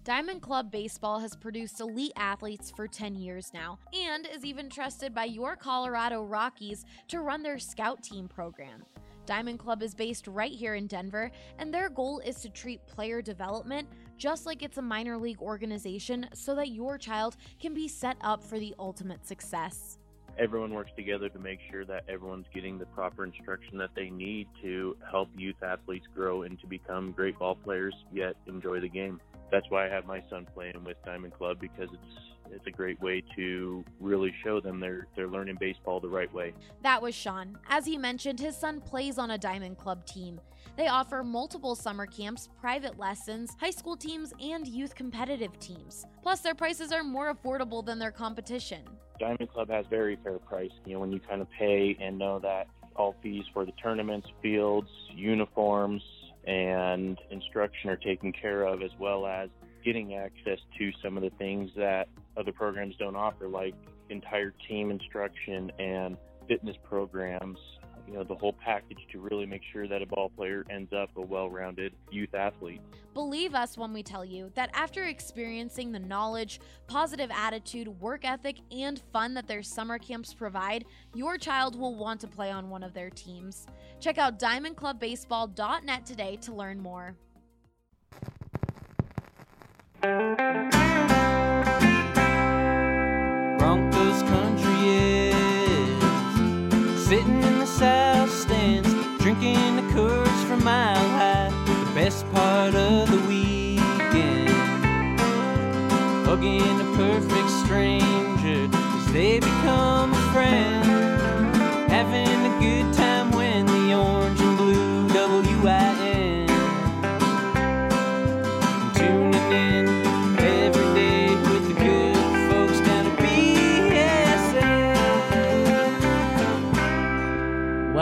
Diamond Club Baseball has produced elite athletes for 10 years now and is even trusted by your Colorado Rockies to run their scout team program. Diamond Club is based right here in Denver, and their goal is to treat player development just like it's a minor league organization so that your child can be set up for the ultimate success. Everyone works together to make sure that everyone's getting the proper instruction that they need to help youth athletes grow and to become great ball players, yet enjoy the game. That's why I have my son playing with Diamond Club, because it's a great way to really show them they're learning baseball the right way. That was Sean. As he mentioned, his son plays on a Diamond Club team. They offer multiple summer camps, private lessons, high school teams, and youth competitive teams. Plus, their prices are more affordable than their competition. Diamond Club has very fair price. When you kind of pay and know that all fees for the tournaments, fields, uniforms, and instruction are taken care of, as well as getting access to some of the things that other programs don't offer, like entire team instruction and fitness programs, the whole package to really make sure that a ball player ends up a well-rounded youth athlete. Believe us when we tell you that after experiencing the knowledge, positive attitude, work ethic, and fun that their summer camps provide, your child will want to play on one of their teams. Check out diamondclubbaseball.net today to learn more. Broncos country is sitting in the south stands, drinking the Coors from Mile High. The best part of the weekend, hugging a perfect stranger as they become a friend, having a good time when the orange and blue WIN, tuning in every day with the good folks down at BSN.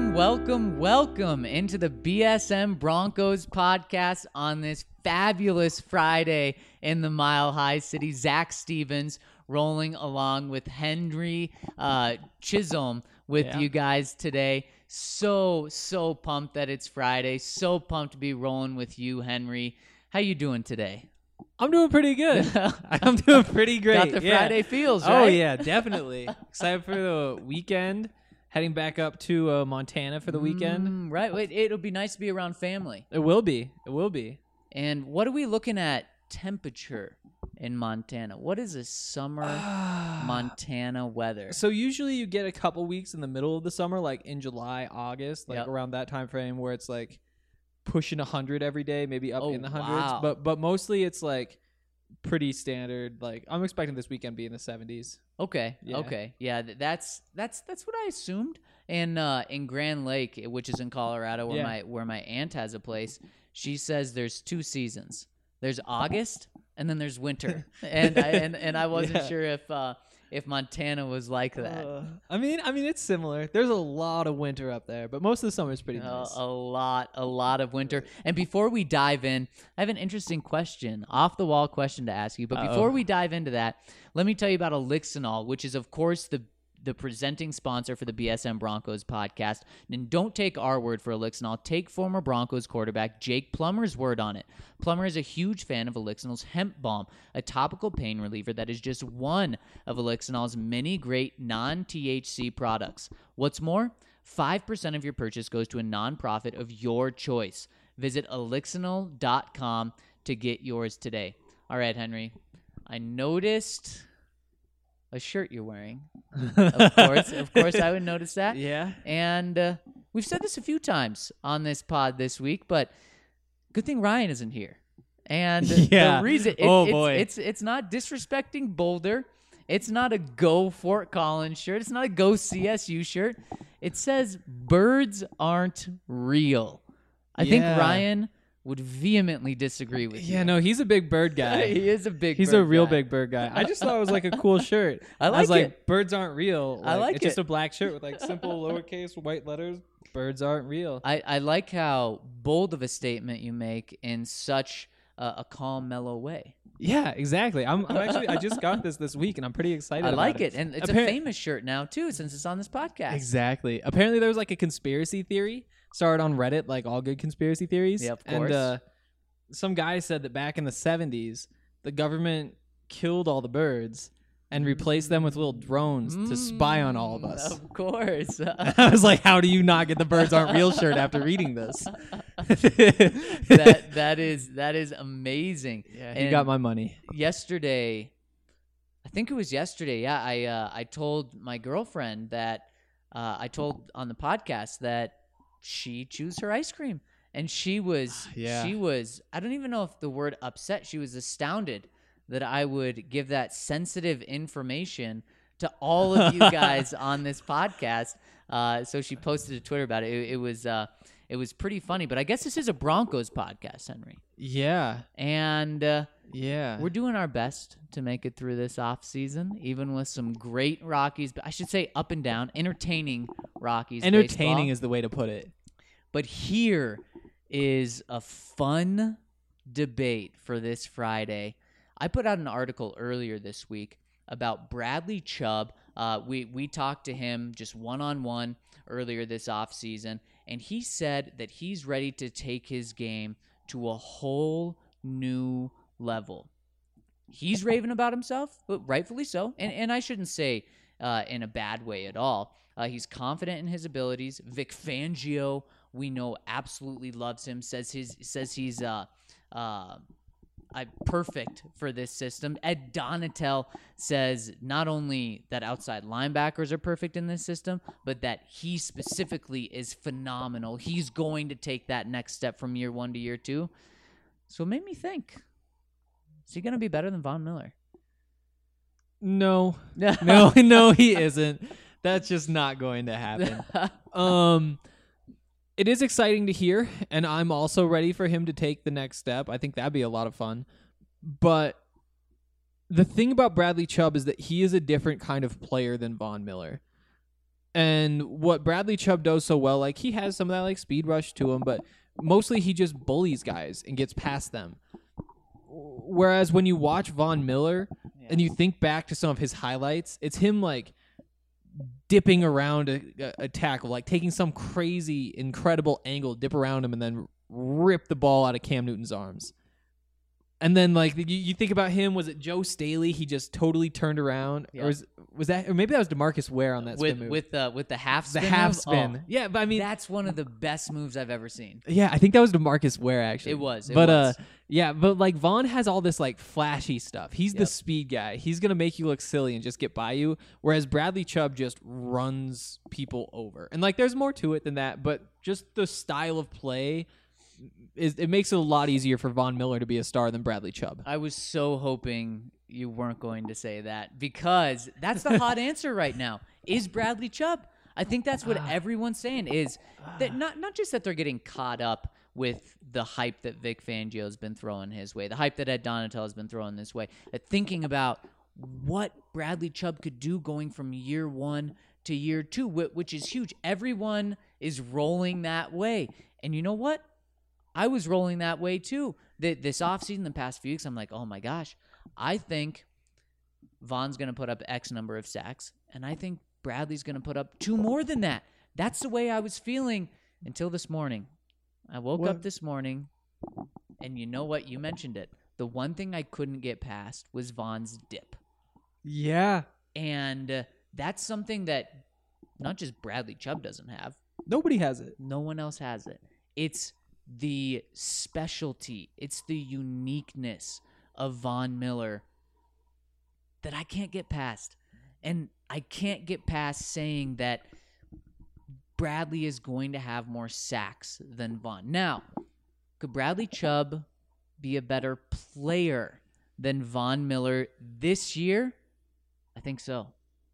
Welcome into the BSM Broncos podcast on this fabulous Friday in the Mile High City. Zach Stevens rolling along with Henry Chisholm with you guys today. So pumped that it's Friday. So pumped to be rolling with you, Henry. How you doing today? I'm doing pretty good. I'm doing pretty great. Got the Friday feels, right? Oh, yeah, definitely. Excited for the weekend. Heading back up to Montana for the weekend. Right. Wait, it'll be nice to be around family. It will be. And what are we looking at temperature in Montana? What is a summer Montana weather? So usually you get a couple weeks in the middle of the summer, like in July, August, like around that time frame where it's like pushing 100 every day, maybe up in the hundreds. Wow. But mostly it's like pretty standard. Like I'm expecting this weekend be in the 70s. Okay. Yeah. Okay. Yeah, that's what I assumed. And in Grand Lake, which is in Colorado, where my aunt has a place, she says there's two seasons. There's August and then there's winter. and I wasn't sure if Montana was like that. I mean it's similar. There's a lot of winter up there, but most of the summer is pretty nice. A lot of winter. And before we dive in, I have an interesting question, off the wall question to ask you. But before we dive into that, let me tell you about Elixinol, which is of course the presenting sponsor for the BSM Broncos podcast. And don't take our word for Elixinol. Take former Broncos quarterback Jake Plummer's word on it. Plummer is a huge fan of Elixinol's Hemp Balm, a topical pain reliever that is just one of Elixinol's many great non-THC products. What's more, 5% of your purchase goes to a nonprofit of your choice. Visit elixinol.com to get yours today. All right, Henry, I noticed a shirt you're wearing. Of course, I would notice that. Yeah. And we've said this a few times on this pod this week, but good thing Ryan isn't here. And the reason it's not disrespecting Boulder. It's not a Go Fort Collins shirt. It's not a Go CSU shirt. It says birds aren't real. I think Ryan would vehemently disagree with you. Yeah, no, he's a big bird guy. He is a big He's bird a real guy. big bird guy. I just thought it was like a cool shirt. I was like like, it. birds aren't real. I like it's just it. a black shirt with like simple lowercase white letters. Birds aren't real. I like how bold of a statement you make in such a calm, mellow way. Yeah, exactly. I'm actually, I just got this week and I'm pretty excited I about like it. And it's a famous shirt now too, since it's on this podcast. Exactly. Apparently there was like a conspiracy theory started on Reddit, like all good conspiracy theories. Yeah, of course. And some guy said that back in the 70s, the government killed all the birds and replaced them with little drones to spy on all of us. Of course. I was like, how do you not get the birds aren't real shirt after reading this? that is amazing. Yeah, he got my money. Yesterday, I think it was yesterday. Yeah, I told my girlfriend that I told on the podcast that she chews her ice cream, and she was I don't even know if the word upset. She was astounded that I would give that sensitive information to all of you guys on this podcast. So she posted to Twitter about it. It was pretty funny, but I guess this is a Broncos podcast, Henry. Yeah. And we're doing our best to make it through this off season, even with some great Rockies, but I should say up and down, entertaining Rockies Entertaining baseball. is the way to put it. But here is a fun debate for this Friday. I put out an article earlier this week about Bradley Chubb. We talked to him just one-on-one earlier this offseason, and he said that he's ready to take his game to a whole new level. He's raving about himself, but rightfully so, and I shouldn't say in a bad way at all. He's confident in his abilities. Vic Fangio, we know, absolutely loves him, says he's perfect for this system. Ed Donatel says not only that outside linebackers are perfect in this system, but that he specifically is phenomenal. He's going to take that next step from year 1 to year 2. So it made me think, is he going to be better than Von Miller? No, no, he isn't. That's just not going to happen. It is exciting to hear, and I'm also ready for him to take the next step. I think that'd be a lot of fun. But the thing about Bradley Chubb is that he is a different kind of player than Von Miller. And what Bradley Chubb does so well, like he has some of that like speed rush to him, but mostly he just bullies guys and gets past them. Whereas when you watch Von Miller and you think back to some of his highlights, it's him like dipping around a tackle, like taking some crazy, incredible angle, dip around him, and then rip the ball out of Cam Newton's arms. And then, like, you think about him, was it Joe Staley? He just totally turned around, or was that, or maybe that was DeMarcus Ware on that spin move with the half spin. The half move? spin, Oh, yeah. But I mean, that's one of the best moves I've ever seen. Yeah, I think that was DeMarcus Ware actually. It was, but like Vaughn has all this like flashy stuff. He's the speed guy. He's gonna make you look silly and just get by you. Whereas Bradley Chubb just runs people over. And like, there's more to it than that. But just the style of play it makes it a lot easier for Von Miller to be a star than Bradley Chubb. I was so hoping you weren't going to say that, because that's the hot answer right now. Is Bradley Chubb? I think that's what everyone's saying, is that not just that they're getting caught up with the hype that Vic Fangio has been throwing his way, the hype that Ed Donatel has been throwing this way, that thinking about what Bradley Chubb could do going from year 1 to year 2, which is huge. Everyone is rolling that way. And you know what? I was rolling that way too. This offseason, the past few weeks, I'm like, oh my gosh, I think Von's going to put up X number of sacks, and I think Bradley's going to put up 2 more than that. That's the way I was feeling until this morning. I woke up this morning, and you know what? You mentioned it. The one thing I couldn't get past was Von's dip. Yeah. And that's something that not just Bradley Chubb doesn't have. Nobody has it. No one else has it. It's the specialty, it's the uniqueness of Von Miller that I can't get past. And I can't get past saying that Bradley is going to have more sacks than Von. Now, could Bradley Chubb be a better player than Von Miller this year? I think so.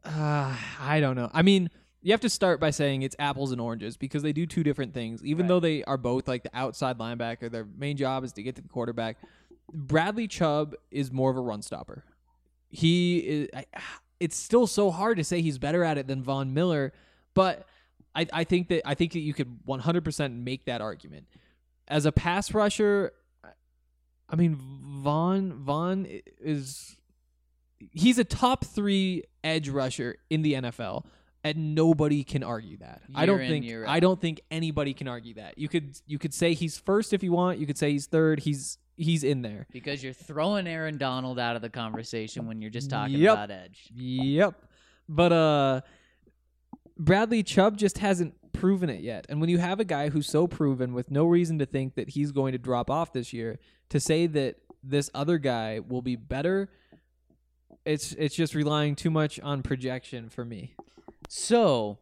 I don't know. I mean, you have to start by saying it's apples and oranges, because they do 2 different things. Even though they are both like the outside linebacker, their main job is to get to the quarterback. Bradley Chubb is more of a run stopper. He is. It's still so hard to say he's better at it than Von Miller, but I think that you could 100% make that argument. As a pass rusher, I mean, Von is, he's a top 3 edge rusher in the NFL. And nobody can argue that. I Year don't in, think year I out. don't think anybody can argue that. You could say he's first if you want. You could say he's third. He's in there. Because you're throwing Aaron Donald out of the conversation when you're just talking Yep. about edge. Yep. But Bradley Chubb just hasn't proven it yet. And when you have a guy who's so proven with no reason to think that he's going to drop off this year, to say that this other guy will be better, it's just relying too much on projection for me. So,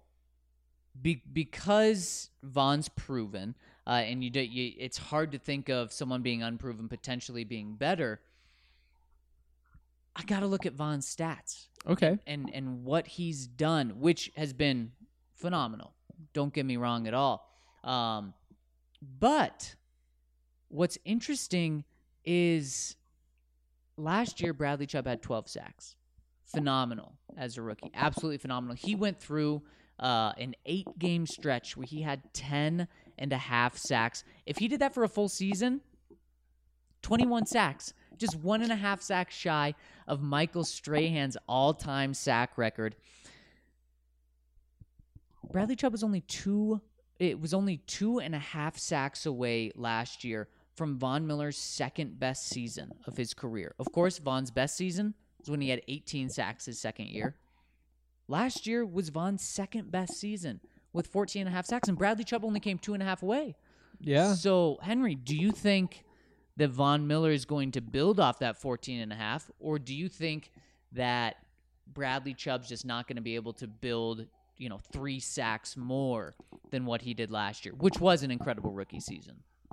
because Vaughn's proven, and it's hard to think of someone being unproven potentially being better. I got to look at Vaughn's stats. Okay. And what he's done, which has been phenomenal. Don't get me wrong at all. But what's interesting is last year Bradley Chubb had 12 sacks. Phenomenal as a rookie. Absolutely phenomenal. He went through an 8-game stretch where he had 10.5 sacks. If he did that for a full season, 21 sacks. Just 1.5 sacks shy of Michael Strahan's all-time sack record. Bradley Chubb was only 2.5 sacks away last year from Von Miller's second best season of his career. Of course, Von's best season was when he had 18 sacks his second year. Last year was Von's second best season with 14.5 sacks, and Bradley Chubb only came 2.5 away. Yeah. So, Henry, do you think that Von Miller is going to build off that 14.5, or do you think that Bradley Chubb's just not going to be able to build, 3 sacks more than what he did last year, which was an incredible rookie season?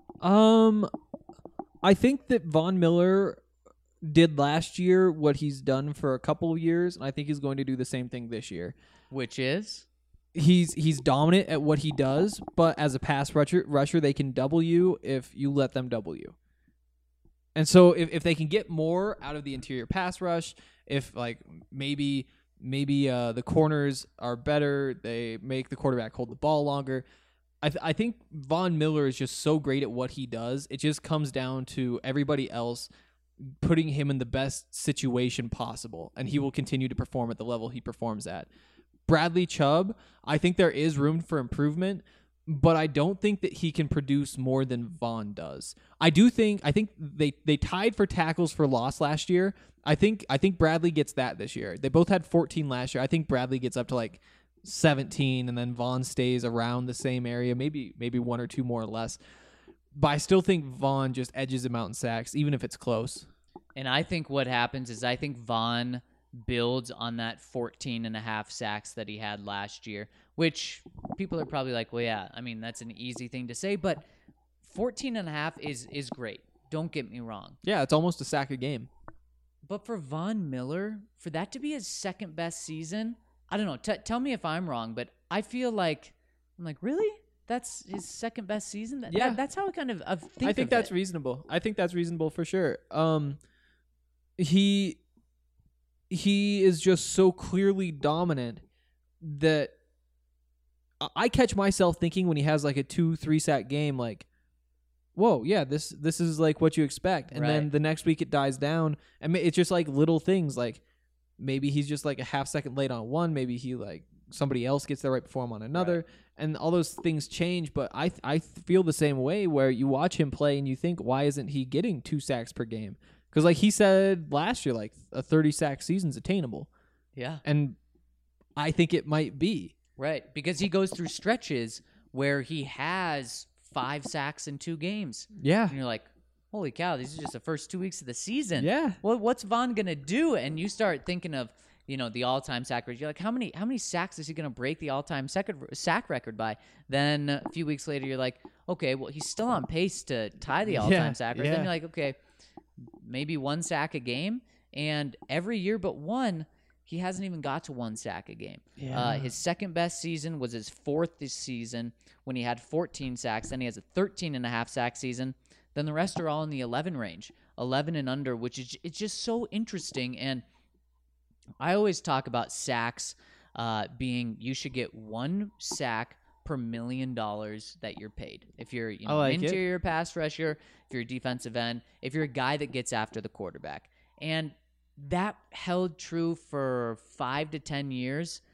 I think that Von Miller did last year what he's done for a couple of years, and I think he's going to do the same thing this year. Which is? He's dominant at what he does, but as a pass rusher, they can double you if you let them double you. And so if they can get more out of the interior pass rush, if maybe the corners are better, they make the quarterback hold the ball longer. I think Von Miller is just so great at what he does. It just comes down to everybody else putting him in the best situation possible, and he will continue to perform at the level he performs at. Bradley Chubb, I think there is room for improvement, but I don't think that he can produce more than Von does. I think they tied for tackles for loss last year. I think Bradley gets that this year. They both had 14 last year. I think Bradley gets up to 17, and then Von stays around the same area, maybe one or two more or less. But I still think Von just edges him out in sacks, even if it's close. And I think what happens is I think Von builds on that 14.5 sacks that he had last year, which people are probably like, well, yeah, I mean, that's an easy thing to say, but 14.5 is great. Don't get me wrong. Yeah, it's almost a sack a game. But for Von Miller, for that to be his second best season, I don't know. Tell me if I'm wrong, but I feel like, I'm like, really? That's his second best season? That's how I kind of think I think that's it. reasonable. I think that's reasonable for sure. He is just so clearly dominant that I catch myself thinking when he has a 2-3 sack game, whoa, yeah, this is what you expect. And then Right. the next week it dies down. And it's just little things, maybe he's just a half second late on one. Maybe he somebody else gets there right before him on another. Right. And all those things change. But I feel the same way where you watch him play and you think, why isn't he getting 2 sacks per game? Because he said last year, a 30 sack season's attainable. Yeah. And I think it might be. Right, because he goes through stretches where he has 5 sacks in 2 games. Yeah. And you're like, holy cow, these are just the first 2 weeks of the season. Yeah. Well, what's Von going to do? And you start thinking of, the all-time sack record. You're like, how many sacks is he going to break the all-time sack record by? Then a few weeks later, you're like, okay, well, he's still on pace to tie the all-time sack record. yeah. Then you're like, okay, maybe 1 sack a game. And every year but one, he hasn't even got to 1 sack a game. Yeah. His second best season was his 4th this season when he had 14 sacks. Then he has a 13.5 sack season. Then the rest are all in the 11 range, 11 and under, which is it's just so interesting. And I always talk about sacks being you should get 1 sack per $1 million that you're paid. If you're an interior pass rusher, if you're a defensive end, if you're a guy that gets after the quarterback. And that held true for 5 to 10 years.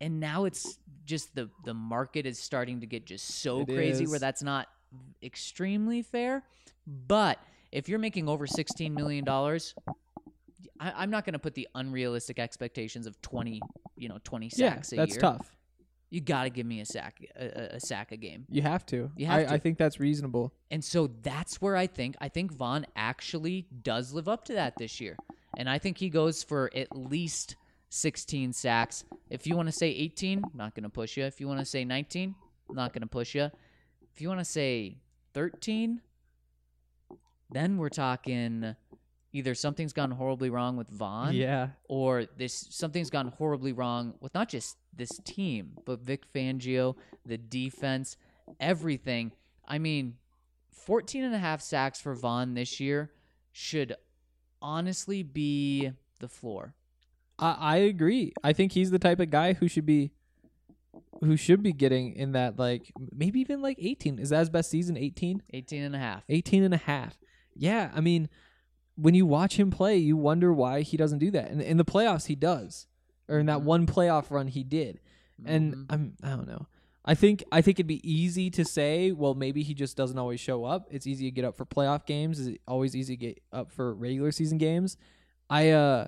And now it's just the market is starting to get just so It crazy is. where that's not extremely fair. But if you're making over $16 million, I'm not going to put the unrealistic expectations of 20 sacks a year. That's tough. You got to give me a sack a game. You have to. You have to. I think that's reasonable. And so that's where I think Vaughn actually does live up to that this year. And I think he goes for at least 16 sacks. If you want to say 18, not going to push you. If you want to say 19, not going to push you. If you want to say 13, then we're talking either something's gone horribly wrong with Vaughn, Yeah. or something's gone horribly wrong with not just this team, but Vic Fangio, the defense, everything. I mean, 14.5 sacks for Vaughn this year should honestly be the floor. I agree. I think he's the type of guy who should be getting in that, like, maybe even like 18. Is that his best season? 18? 18.5. 18.5. Yeah, I mean, when you watch him play, you wonder why he doesn't do that. And in the playoffs, he does. Or in that one playoff run, he did. And I don't know. I think it'd be easy to say, well, maybe he just doesn't always show up. It's easy to get up for playoff games. It's always easy to get up for regular season games. I'm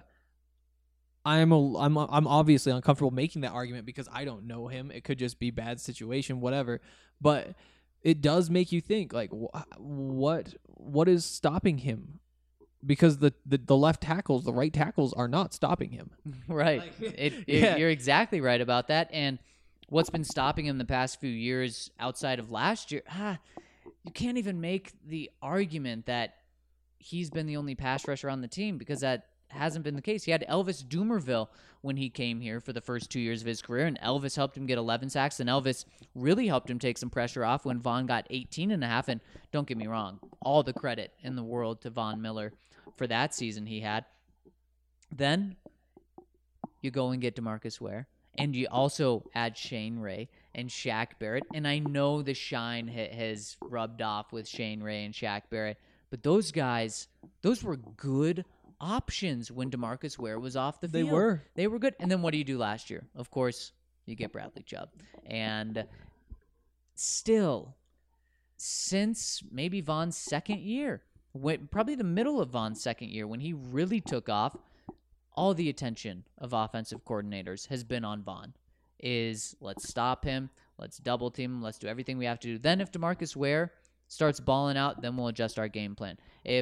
obviously uncomfortable making that argument because I don't know him. It could just be bad situation, whatever. But it does make you think, like, what is stopping him? Because the left tackles, the right tackles are not stopping him. Right. Yeah. You're exactly right about that. And what's been stopping him the past few years outside of last year, you can't even make the argument that he's been the only pass rusher on the team, because that hasn't been the case. He had Elvis Dumervil when he came here for the first 2 years of his career, and Elvis helped him get 11 sacks, and Elvis really helped him take some pressure off when Vaughn got 18.5. And don't get me wrong, all the credit in the world to Von Miller for that season he had. Then you go and get DeMarcus Ware, and you also add Shane Ray and Shaq Barrett. And I know the shine has rubbed off with Shane Ray and Shaq Barrett, but those guys, those were good options when DeMarcus Ware was off the field. They were good. And then what do you do last year? Of course, you get Bradley Chubb. And still, since maybe Vaughn's second year, probably the middle of Vaughn's second year, when he really took off, all the attention of offensive coordinators has been on Vaughn. Let's stop him, let's double team him, let's do everything we have to do. Then if DeMarcus Ware starts balling out, then we'll adjust our game plan.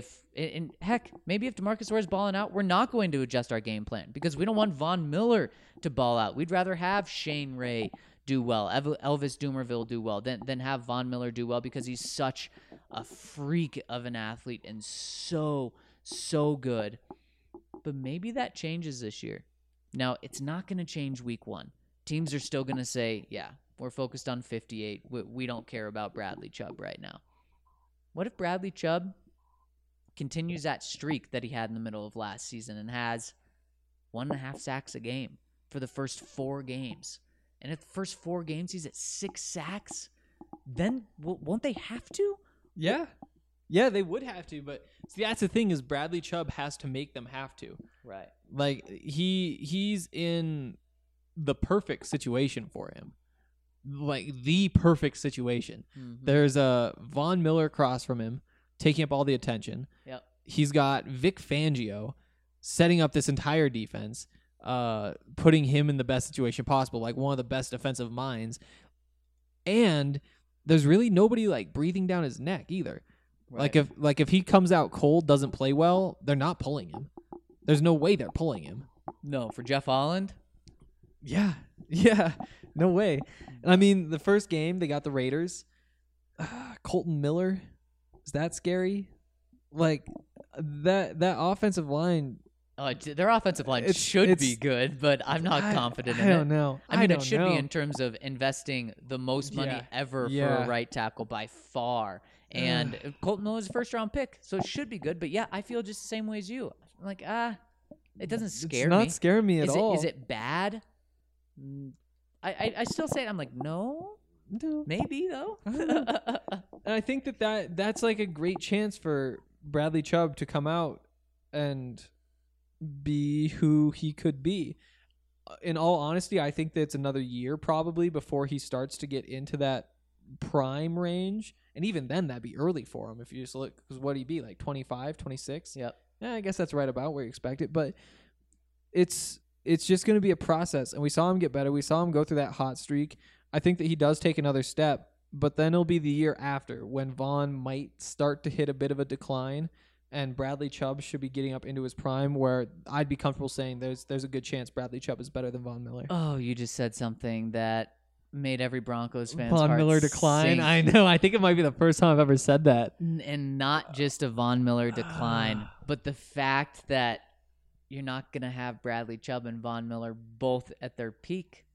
Maybe if DeMarcus Ware is balling out, we're not going to adjust our game plan because we don't want Von Miller to ball out. We'd rather have Shane Ray do well, Elvis Dumervil do well, than have Von Miller do well, because he's such a freak of an athlete and so good. But maybe that changes this year. Now, it's not going to change week one. Teams are still going to say, yeah, we're focused on 58. We don't care about Bradley Chubb right now. What if Bradley Chubb continues that streak that he had in the middle of last season and has 1.5 sacks a game for the first 4 games? And if the first 4 games he's at 6 sacks, then won't they have to? Yeah. Yeah, they would have to, but see, that's the thing, is Bradley Chubb has to make them have to. Right. Like, he's in the perfect situation for him. Like, the perfect situation. Mm-hmm. There's a Von Miller across from him, taking up all the attention. Yep. He's got Vic Fangio setting up this entire defense, putting him in the best situation possible, like one of the best defensive minds. And there's really nobody, like, breathing down his neck either. Right. Like if he comes out cold, doesn't play well, they're not pulling him. There's no way they're pulling him. No, for Jeff Holland? Yeah, no way. And I mean, the first game they got the Raiders. Colton Miller, is that scary? Like that offensive line. Their offensive line should be good, but I'm not confident in it. I don't know. I mean, it should be in terms of investing the most money ever for a right tackle by far. And Colton Miller is a first-round pick, so it should be good. But, yeah, I feel just the same way as you. I'm like, it doesn't scare me. It's not scaring me at all. Is it bad? I still say it. I'm like, no, maybe, though. And I think that's like a great chance for Bradley Chubb to come out and be who he could be. in all honesty, I think that it's another year probably before he starts to get into that prime range. And even then, that'd be early for him if you just look. Because what'd he be, like 25, 26? Yep. Yeah, I guess that's right about where you expect it. But it's just going to be a process. And we saw him get better. We saw him go through that hot streak. I think that he does take another step. But then it'll be the year after when Vaughn might start to hit a bit of a decline. And Bradley Chubb should be getting up into his prime, where I'd be comfortable saying there's a good chance Bradley Chubb is better than Von Miller. Oh, you just said something that made every Broncos fan's Von heart Miller decline? sink. I know. I think it might be the first time I've ever said that. And not just a Von Miller decline, but the fact that you're not going to have Bradley Chubb and Von Miller both at their peak.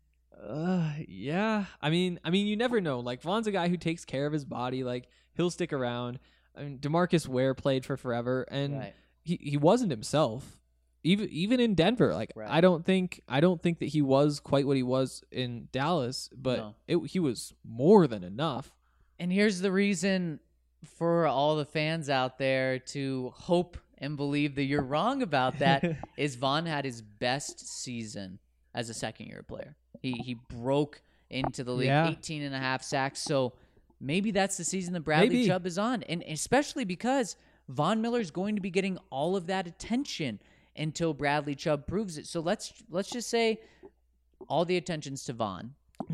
Yeah. I mean, you never know. Like, Von's a guy who takes care of his body. Like, he'll stick around. I mean, DeMarcus Ware played for forever, and Right. he wasn't himself. Even in Denver, like Right. I don't think that he was quite what he was in Dallas, but No. he was more than enough. And here's the reason for all the fans out there to hope and believe that you're wrong about that is Von had his best season as a second-year player. He broke into the league, Yeah. 18 and a half sacks. So maybe that's the season that Bradley Maybe. Chubb is on. And especially because Von Miller's going to be getting all of that attention until Bradley Chubb proves it. So let's just say all the attention's to Von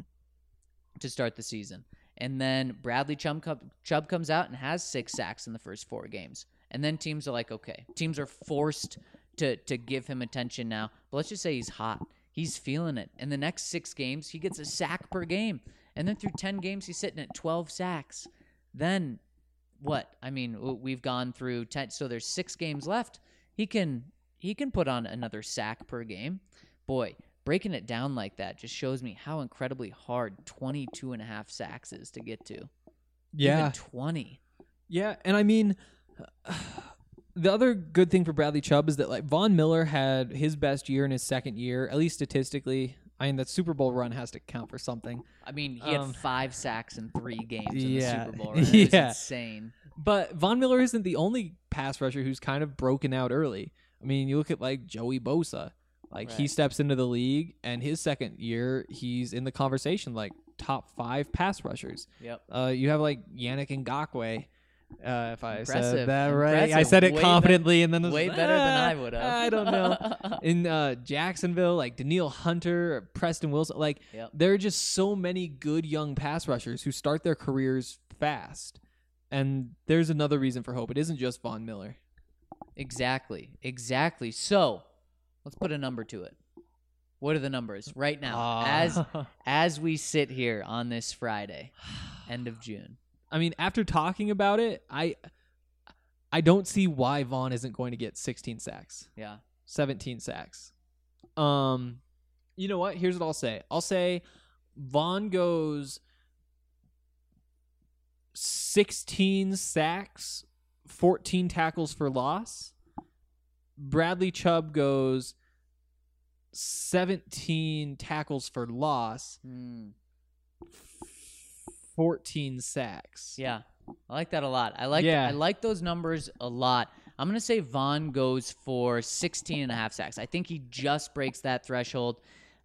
to start the season. And then Bradley Chubb comes out and has 6 sacks in the first 4 games. And then teams are like, okay, teams are forced to give him attention now. But let's just say he's hot. He's feeling it. In the next 6 games, he gets a sack per game. And then through 10 games, he's sitting at 12 sacks. Then what? I mean, we've gone through 10. So there's 6 games left. He can put on another sack per game. Boy, breaking it down like that just shows me how incredibly hard 22 and a half sacks is to get to. Yeah. Even 20. Yeah, and I mean, the other good thing for Bradley Chubb is that like Von Miller had his best year in his second year, at least statistically. I mean, that Super Bowl run has to count for something. I mean, he had 5 sacks in 3 games in yeah. the Super Bowl. Right? It was Yeah. insane. But Von Miller isn't the only pass rusher who's kind of broken out early. I mean, you look at like Joey Bosa. Like he Right. steps into the league, and his second year, he's in the conversation, like top 5 pass rushers. Yep. You have like Yannick Ngakoue. If I said Impressive. that right, I Impressive. said it Way confidently, and then it was, way better than I would have. I don't know. In Jacksonville, like Daniil Hunter, Preston Wilson, like Yep. there are just so many good young pass rushers who start their careers fast. And there's another reason for hope. It isn't just Von Miller. Exactly. So let's put a number to it. What are the numbers right now as we sit here on this Friday, end of June? I mean, after talking about it, I don't see why Vaughn isn't going to get 16 sacks, Yeah. 17 sacks. You know what? Here's what I'll say. I'll say Vaughn goes 16 sacks, 14 tackles for loss. Bradley Chubb goes 17 tackles for loss, 14 sacks. Yeah. I like that a lot. I like those numbers a lot. I'm going to say Vaughn goes for 16 and a half sacks. I think he just breaks that threshold.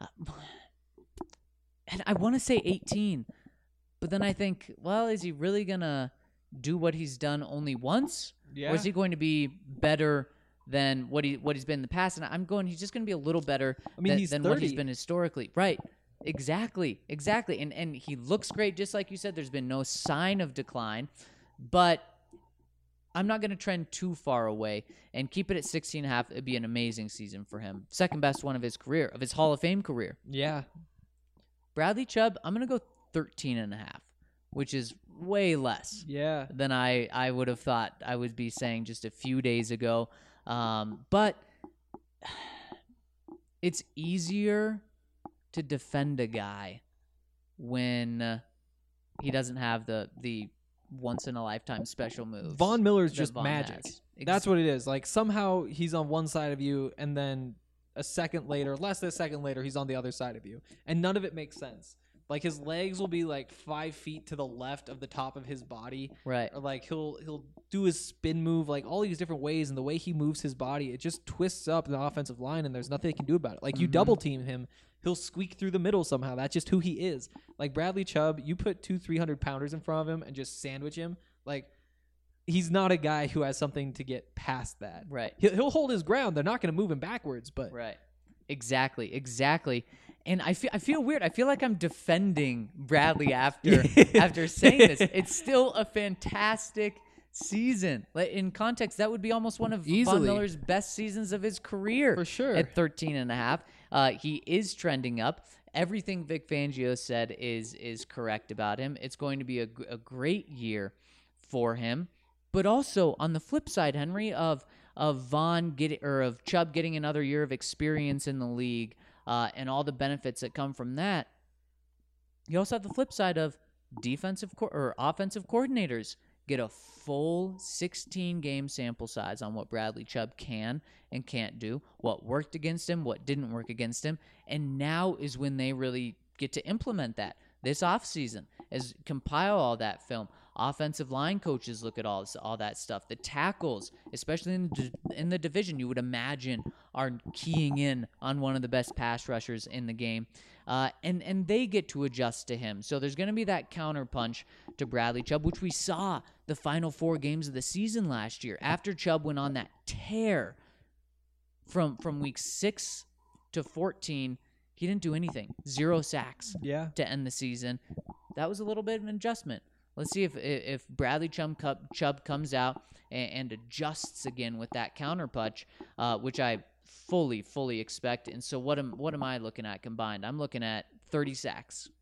And I want to say 18. But then I think, well, is he really going to do what he's done only once? Yeah. Or is he going to be better than what he's been in the past? And I'm going, he's just going to be a little better he's than what he's 30. been historically. Right. Exactly. And he looks great, just like you said. There's been no sign of decline. But I'm not going to trend too far away and keep it at 16 and a half. It'd be an amazing season for him. Second best one of his career, of his Hall of Fame career. Yeah. Bradley Chubb, I'm going to go 13 and a half, which is way less Yeah. than I would have thought I would be saying just a few days ago. But it's easier to defend a guy when he doesn't have the once-in-a-lifetime special moves. Von Miller's that just Von magic. has. That's what it is. Like somehow he's on one side of you, and then less than a second later, he's on the other side of you, and none of it makes sense. Like his legs will be like 5 feet to the left of the top of his body. Right. Or like he'll do his spin move, like all these different ways, and the way he moves his body, it just twists up the offensive line, and there's nothing they can do about it. Like you double team him, he'll squeak through the middle somehow. That's just who he is. Like Bradley Chubb, you put 2 300-pounders in front of him and just sandwich him. Like he's not a guy who has something to get past that. Right. He'll hold his ground. They're not going to move him backwards, but Right. Exactly. And I feel weird. I feel like I'm defending Bradley after saying this. It's still a fantastic season. Like, in context, that would be almost one of Von Easily. Miller's best seasons of his career. For sure. At 13.5. He is trending up. Everything Vic Fangio said is correct about him. It's going to be a great year for him. But also on the flip side, Henry, of Chubb getting another year of experience in the league, and all the benefits that come from that, you also have the flip side of offensive coordinators get a full 16-game sample size on what Bradley Chubb can and can't do, what worked against him, what didn't work against him, and now is when they really get to implement that this offseason, as compile all that film. Offensive line coaches look at all that stuff. The tackles, especially in the division, you would imagine are keying in on one of the best pass rushers in the game. And they get to adjust to him. So there's going to be that counterpunch to Bradley Chubb, which we saw the final 4 games of the season last year. After Chubb went on that tear from week 6 to 14, he didn't do anything. 0 sacks to end the season. That was a little bit of an adjustment. Let's see if Bradley Chubb comes out and adjusts again with that counterpunch, which I fully expect. And so what am I looking at combined? I'm looking at 30 sacks.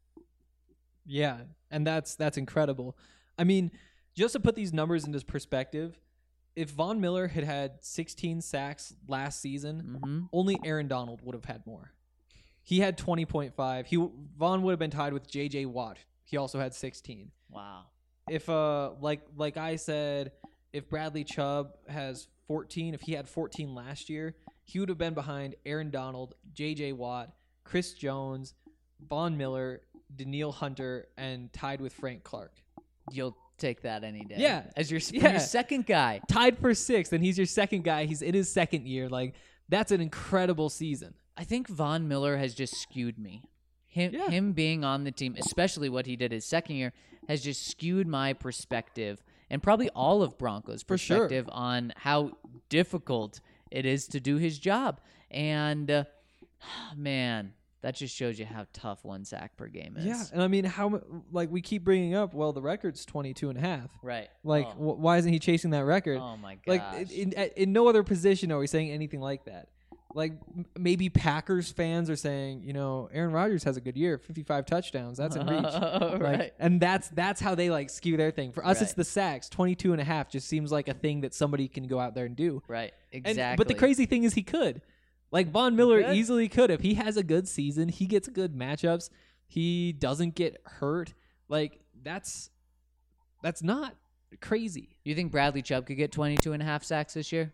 Yeah, and that's incredible. I mean, just to put these numbers into perspective, if Von Miller had 16 sacks last season, only Aaron Donald would have had more. He had 20.5. Von would have been tied with J.J. Watt. He also had 16. Wow. If like I said, if Bradley Chubb has 14, if he had 14 last year, he would have been behind Aaron Donald, J.J. Watt, Chris Jones, Von Miller, Danielle Hunter, and tied with Frank Clark. You'll take that any day. Yeah. As your second guy. Tied for 6th, and he's your second guy. He's in his second year. Like, that's an incredible season. I think Von Miller has just skewed me. Him being on the team, especially what he did his second year, has just skewed my perspective, and probably all of Broncos' perspective on how difficult it is to do his job. And, man, that just shows you how tough 1 sack per game is. Yeah, and I mean, we keep bringing up, well, the record's 22.5. Right. Like, why isn't he chasing that record? Oh, my gosh. Like, in no other position are we saying anything like that. Like, maybe Packers fans are saying, Aaron Rodgers has a good year, 55 touchdowns. That's in reach. Right. And that's how they, skew their thing. For us, it's the sacks. 22.5 just seems like a thing that somebody can go out there and do. Right, exactly. But the crazy thing is he could. Like, Von Miller easily could. If he has a good season, he gets good matchups, he doesn't get hurt. Like, that's not crazy. You think Bradley Chubb could get 22.5 sacks this year?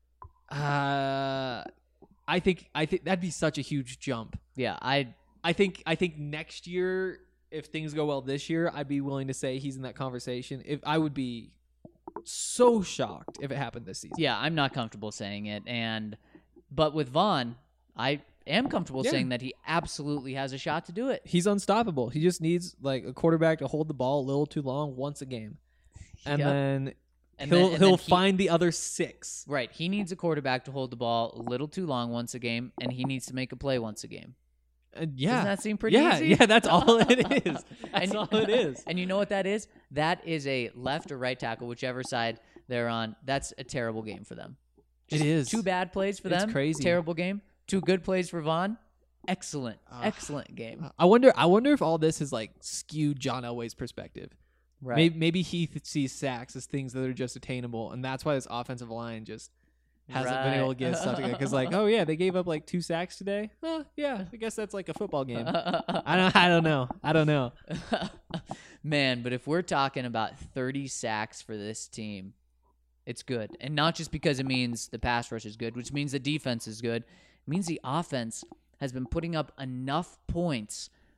I think that'd be such a huge jump. Yeah, I think next year, if things go well this year, I'd be willing to say he's in that conversation. If I would be so shocked if it happened this season. Yeah, I'm not comfortable saying it, but with Von, I am comfortable saying that he absolutely has a shot to do it. He's unstoppable. He just needs a quarterback to hold the ball a little too long once a game, and then. He'll find the other 6. Right. He needs a quarterback to hold the ball a little too long once a game, and he needs to make a play once a game. Yeah. Doesn't that seem pretty easy? Yeah, that's all it is. That's all it is. And you know what that is? That is a left or right tackle, whichever side they're on. That's a terrible game for them. It is. 2 bad plays for them. It's crazy. Terrible game. 2 good plays for Von. Excellent game. I wonder if all this is skewed John Elway's perspective. Right. Maybe he sees sacks as things that are just attainable, and that's why this offensive line just hasn't been able to get stuff together. Because they gave up 2 sacks today. Well, yeah, I guess that's a football game. I don't know. Man, but if we're talking about 30 sacks for this team, it's good, and not just because it means the pass rush is good, which means the defense is good. It means the offense has been putting up enough points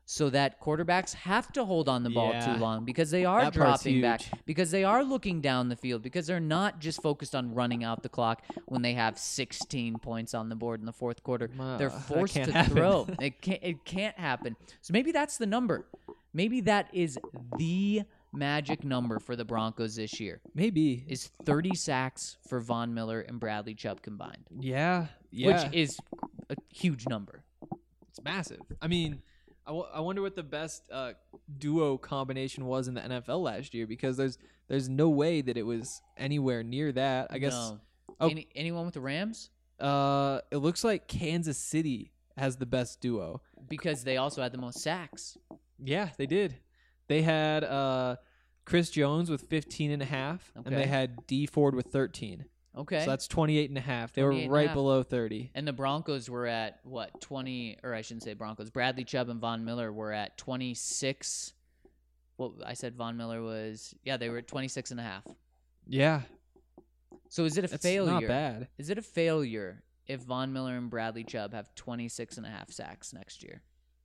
so that quarterbacks have to hold on the ball Yeah. too long because they are That part's dropping back, huge. because they are looking down the field, because they're not just focused on running out the clock when they have 16 points on the board in the fourth quarter. They're That forced can't to happen. throw. It can't happen. So maybe that's the number. Maybe that is the magic number for the Broncos this year, Maybe. is 30 sacks for Von Miller and Bradley Chubb combined, Yeah. which is a huge number. It's massive. I mean, I wonder what the best duo combination was in the NFL last year, because there's no way that it was anywhere near that. I guess No. Oh. Anyone with the Rams? it looks like Kansas City has the best duo. Because they also had the most sacks. Yeah, they did. They had Chris Jones with 15.5, and Okay. they had D Ford with 13. Okay. So that's 28.5. They were 28.5. right below 30. And the Broncos were at, what, 20, or I shouldn't say Broncos. Bradley Chubb and Von Miller were at 26. Well, I said Von Miller was, they were at 26.5. Yeah, So is it a that's failure? not bad. Is it a failure if Von Miller and Bradley Chubb have 26.5 sacks next year?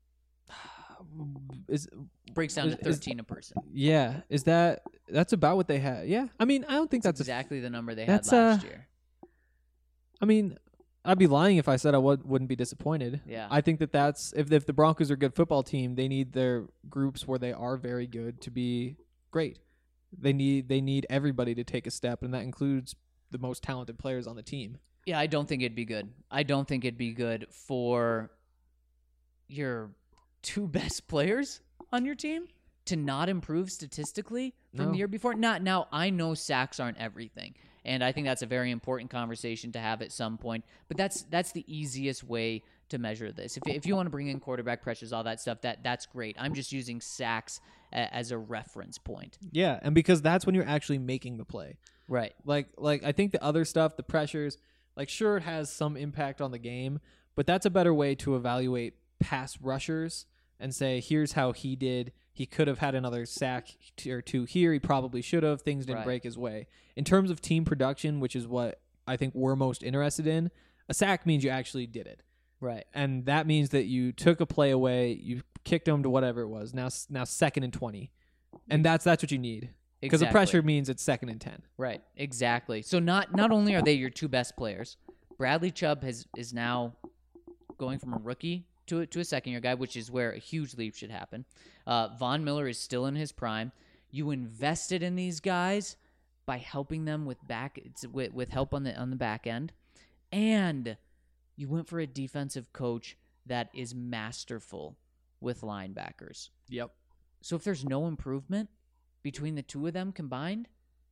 Breaks down to is- 13 a person. Yeah, that's about what they had? Yeah, I mean, I don't think that's exactly the number they that's, had last year. I mean, I'd be lying if I said I wouldn't be disappointed. Yeah. I think that's if the Broncos are a good football team, they need their groups where they are very good to be great. They need everybody to take a step, and that includes the most talented players on the team. Yeah, I don't think it'd be good. I don't think it'd be good for your two best players on your team to not improve statistically from No. the year before. Now, I know sacks aren't everything, and I think that's a very important conversation to have at some point. But that's the easiest way to measure this. If you want to bring in quarterback pressures, all that stuff, that's great. I'm just using sacks as a reference point. Yeah, and because that's when you're actually making the play. Right. Like I think the other stuff, the pressures, like sure it has some impact on the game, but that's a better way to evaluate pass rushers and say, here's how he did. He could have had another sack or two here. He probably should have. Things didn't Right. break his way. In terms of team production, which is what I think we're most interested in, a sack means you actually did it. Right. And that means that you took a play away, you kicked them to whatever it was. Now 2nd and 20. And that's what you need. Because the Exactly. pressure means it's 2nd and 10. Right, exactly. So not only are they your two best players, Bradley Chubb is now going from a rookie to a second-year guy, which is where a huge leap should happen. Von Miller is still in his prime. You invested in these guys by helping them with help on the back end, and you went for a defensive coach that is masterful with linebackers. Yep. So if there's no improvement between the two of them combined,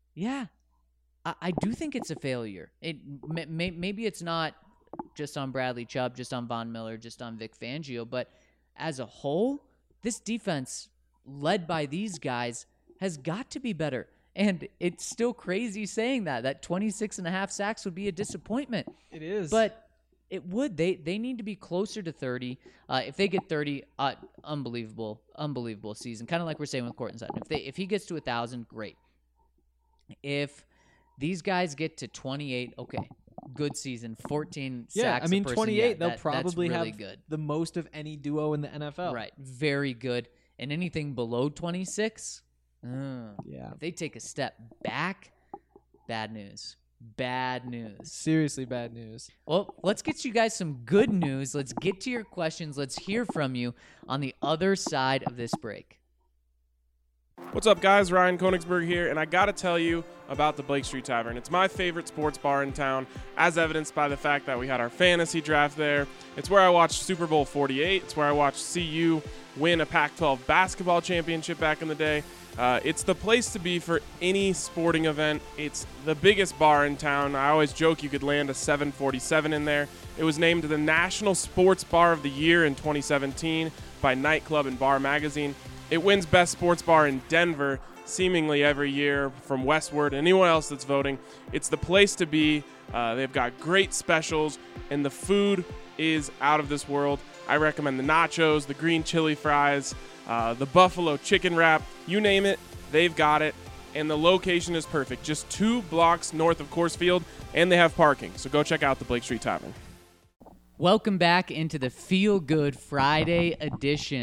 I do think it's a failure. Maybe it's not just on Bradley Chubb, just on Von Miller, just on Vic Fangio, but as a whole, this defense led by these guys has got to be better. And it's still crazy saying that 26.5 sacks would be a disappointment. It is. But it would. They need to be closer to 30. If they get 30, unbelievable season. Kind of like we're saying with Courtland Sutton. If he gets to 1,000, great. If these guys get to 28, okay, good season. 14 sacks. I mean, a person, 28, they'll that's probably really have good. the most of any duo in the NFL. Right, very good. And anything below 26, Yeah. if they take a step back, bad news. Bad news. Seriously bad news. Well, let's get you guys some good news. Let's get to your questions. Let's hear from you on the other side of this break. What's up, guys? Ryan Konigsberg here, and I gotta tell you about the Blake Street Tavern. It's my favorite sports bar in town, as evidenced by the fact that we had our fantasy draft there. It's where I watched Super Bowl 48. It's where I watched CU win a Pac-12 basketball championship back in the day. It's the place to be for any sporting event. It's the biggest bar in town. I always joke you could land a 747 in there. It was named the National Sports Bar of the Year in 2017 by Nightclub and Bar Magazine. It wins Best Sports Bar in Denver seemingly every year from Westward and anyone else that's voting. It's the place to be. They've got great specials, and the food is out of this world. I recommend the nachos, the green chili fries, the buffalo chicken wrap, you name it, they've got it. And the location is perfect, just 2 blocks north of Coors Field, and they have parking. So go check out the Blake Street Tavern. Welcome back into the Feel Good Friday edition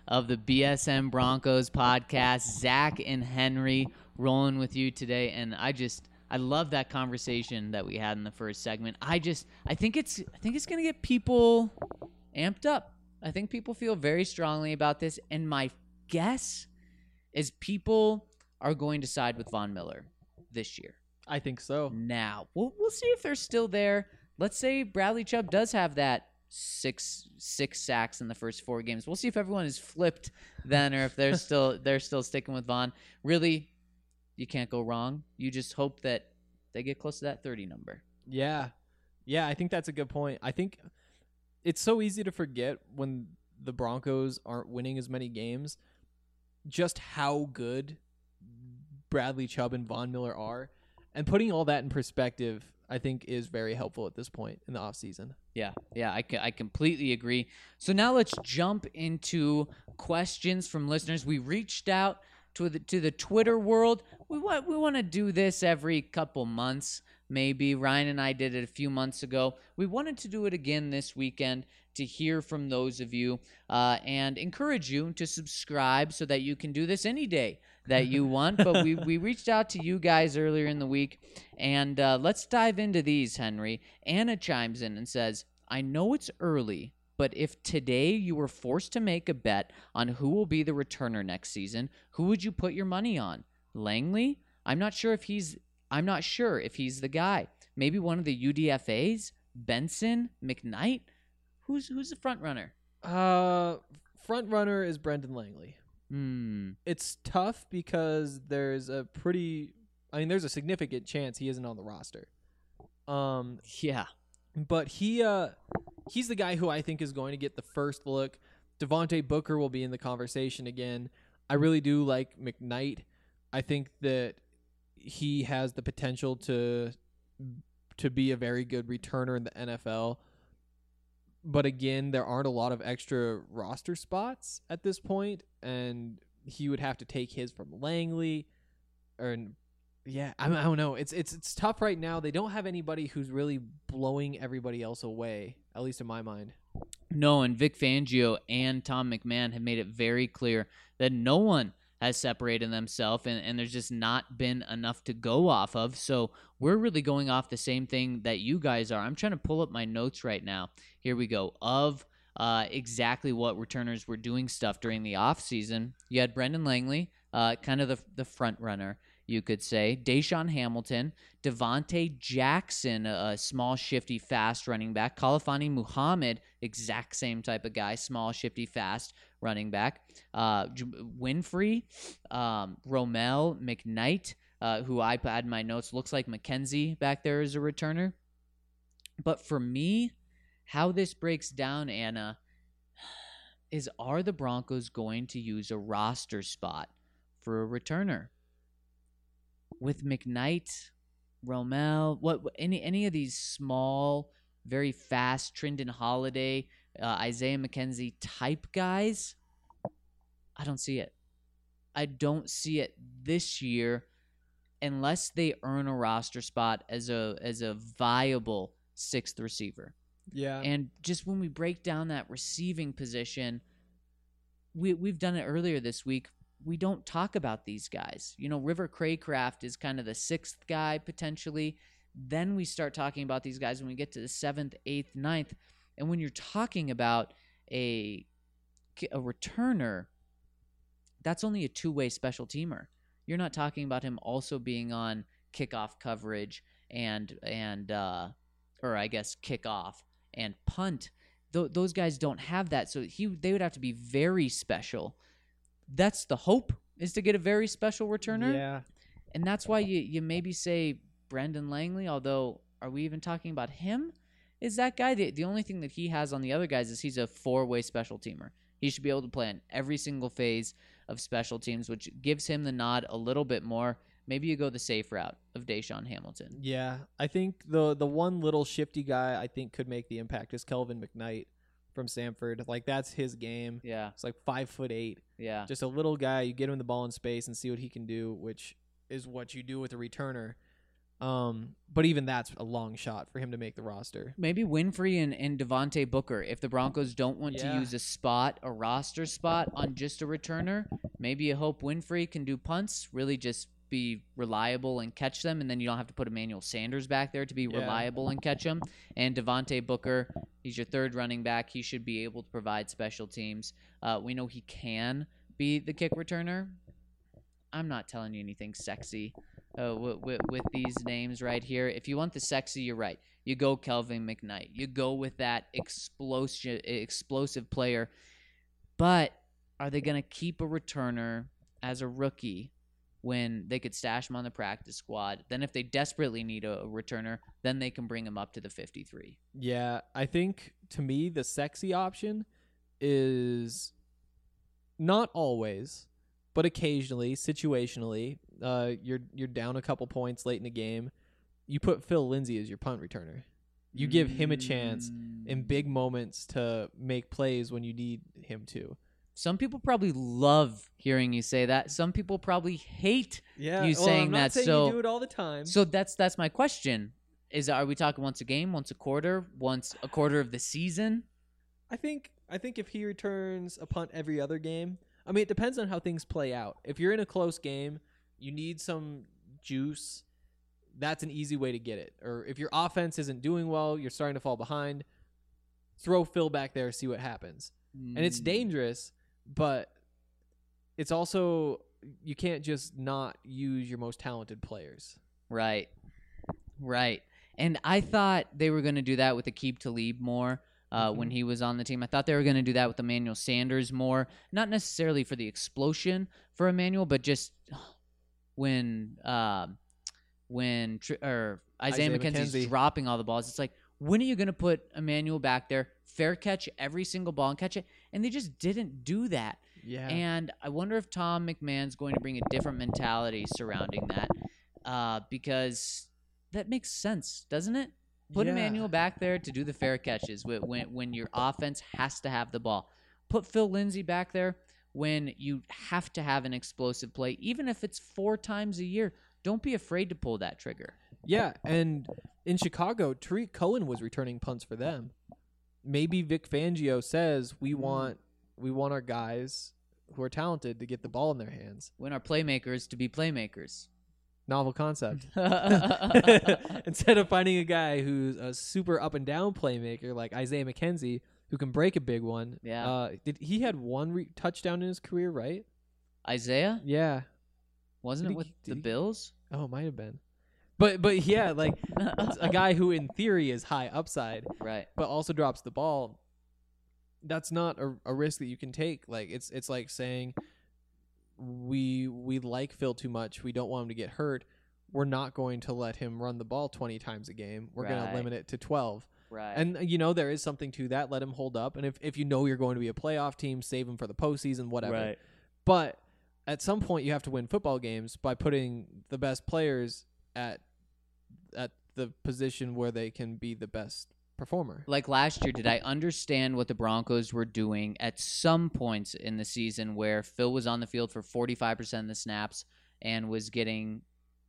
of the BSM Broncos podcast. Zach and Henry rolling with you today, and I love that conversation that we had in the first segment. I think it's going to get people amped up. I think people feel very strongly about this, and my guess is people are going to side with Von Miller this year. I think so. Now, we'll see if they're still there. Let's say Bradley Chubb does have that six sacks in the first 4 games. We'll see if everyone is flipped then, or if they're still sticking with Von. Really, you can't go wrong. You just hope that they get close to that 30 number. Yeah, I think that's a good point. I think it's so easy to forget when the Broncos aren't winning as many games, just how good Bradley Chubb and Von Miller are. And putting all that in perspective, I think, is very helpful at this point in the offseason. Yeah, I completely agree. So now let's jump into questions from listeners. We reached out to the Twitter world. We want to do this every couple months, maybe. Ryan and I did it a few months ago. We wanted to do it again this weekend to hear from those of you and encourage you to subscribe so that you can do this any day that you want. But we reached out to you guys earlier in the week, and let's dive into these, Henry. Anna chimes in and says, I know it's early, but if today you were forced to make a bet on who will be the returner next season, who would you put your money on? Langley? I'm not sure if he's the guy. Maybe one of the UDFAs? Benson? McKnight? Who's the front runner? Front runner is Brendan Langley. It's tough because there's a significant chance he isn't on the roster. Yeah. But he's the guy who I think is going to get the first look. Devontae Booker will be in the conversation again. I really do like McKnight. I think that he has the potential to be a very good returner in the NFL. But again, there aren't a lot of extra roster spots at this point, and he would have to take his from Langley. I don't know. It's tough right now. They don't have anybody who's really blowing everybody else away, at least in my mind. No, and Vic Fangio and Tom McMahon have made it very clear that no one has separated themselves, and there's just not been enough to go off of. So we're really going off the same thing that you guys are. I'm trying to pull up my notes right now. Here we go. Of exactly what returners were doing stuff during the offseason. You had Brendan Langley, kind of the front runner, you could say. Deshaun Hamilton, Devontae Jackson, a small, shifty, fast running back. Khalfani Muhammad, exact same type of guy, small, shifty, fast running back. Winfrey, Romel, McKnight, who I had in my notes, looks like McKenzie back there as a returner. But for me, how this breaks down, Anna, is are the Broncos going to use a roster spot for a returner? With McKnight, Romel, any of these small, very fast, Trindon Holiday, Isaiah McKenzie type guys, I don't see it. I don't see it this year unless they earn a roster spot as a viable 6th receiver. Yeah. And just when we break down that receiving position, we've done it earlier this week. We don't talk about these guys. River Craycraft is kind of the 6th guy potentially. Then we start talking about these guys when we get to the 7th, 8th, 9th. And when you're talking about a returner, that's only a 2-way special teamer. You're not talking about him also being on kickoff coverage and kickoff and punt. Those guys don't have that. So they would have to be very special. That's the hope, is to get a very special returner. Yeah. And that's why you maybe say Brendan Langley, although are we even talking about him? Is that guy, the only thing that he has on the other guys is he's a 4-way special teamer. He should be able to play in every single phase of special teams, which gives him the nod a little bit more. Maybe you go the safe route of Deshaun Hamilton. Yeah, I think the one little shifty guy I think could make the impact is Kelvin McKnight from Samford. Like, that's his game. Yeah. It's like 5'8". Yeah. Just a little guy. You get him the ball in space and see what he can do, which is what you do with a returner. But even that's a long shot for him to make the roster. Maybe Winfrey and Devontae Booker. If the Broncos don't want to use a roster spot on just a returner, maybe you hope Winfrey can do punts, really just be reliable and catch them, and then you don't have to put Emmanuel Sanders back there to be reliable and catch them. And Devontae Booker, he's your third running back. He should be able to provide special teams. We know he can be the kick returner. I'm not telling you anything sexy with these names right here. If you want the sexy, you're right. You go Kelvin McKnight. You go with that explosive player. But are they going to keep a returner as a rookie when they could stash him on the practice squad? Then if they desperately need a returner, then they can bring him up to the 53. Yeah, I think, to me, the sexy option is not always, but occasionally, situationally, you're down a couple points late in the game. You put Phil Lindsay as your punt returner. You give him a chance in big moments to make plays when you need him to. Some people probably love hearing you say that. Some people probably hate you saying I'm not that. saying So you do it all the time. So that's my question. Are we talking once a game, once a quarter of the season? I think if he returns a punt every other game, I mean, it depends on how things play out. If you're in a close game, you need some juice. That's an easy way to get it. Or if your offense isn't doing well, you're starting to fall behind, throw Phil back there, see what happens. And it's dangerous, but it's also, you can't just not use your most talented players. Right. And I thought they were going to do that with Aqib Talib more when he was on the team. I thought they were going to do that with Emmanuel Sanders more. Not necessarily for the explosion for Emmanuel, but just when Isaiah McKenzie's dropping all the balls. It's like, when are you going to put Emmanuel back there, fair catch every single ball and catch it? And they just didn't do that. Yeah. And I wonder if Tom McMahon's going to bring a different mentality surrounding that because that makes sense, doesn't it? Put Emmanuel back there to do the fair catches when your offense has to have the ball. Put Phil Lindsay back there when you have to have an explosive play, even if it's 4 times a year. Don't be afraid to pull that trigger. Yeah, and in Chicago, Tariq Cohen was returning punts for them. Maybe Vic Fangio says we want our guys who are talented to get the ball in their hands. We want our playmakers to be playmakers. Novel concept. Instead of finding a guy who's a super up and down playmaker like Isaiah McKenzie, who can break a big one. Yeah. He had one touchdown in his career, right? Isaiah? Yeah. Wasn't it with the Bills? Oh, it might have been. But yeah, like a guy who in theory is high upside, right, but also drops the ball. That's not a risk that you can take. Like it's like saying we like Phil too much. We don't want him to get hurt. We're not going to let him run the ball 20 times a game. We're going to limit it to 12. Right. And there is something to that. Let him hold up. And if you know you're going to be a playoff team, save him for the postseason, whatever. Right. But at some point you have to win football games by putting the best players at the position where they can be the best performer. Like last year, did I understand what the Broncos were doing at some points in the season where Phil was on the field for 45% of the snaps and was getting,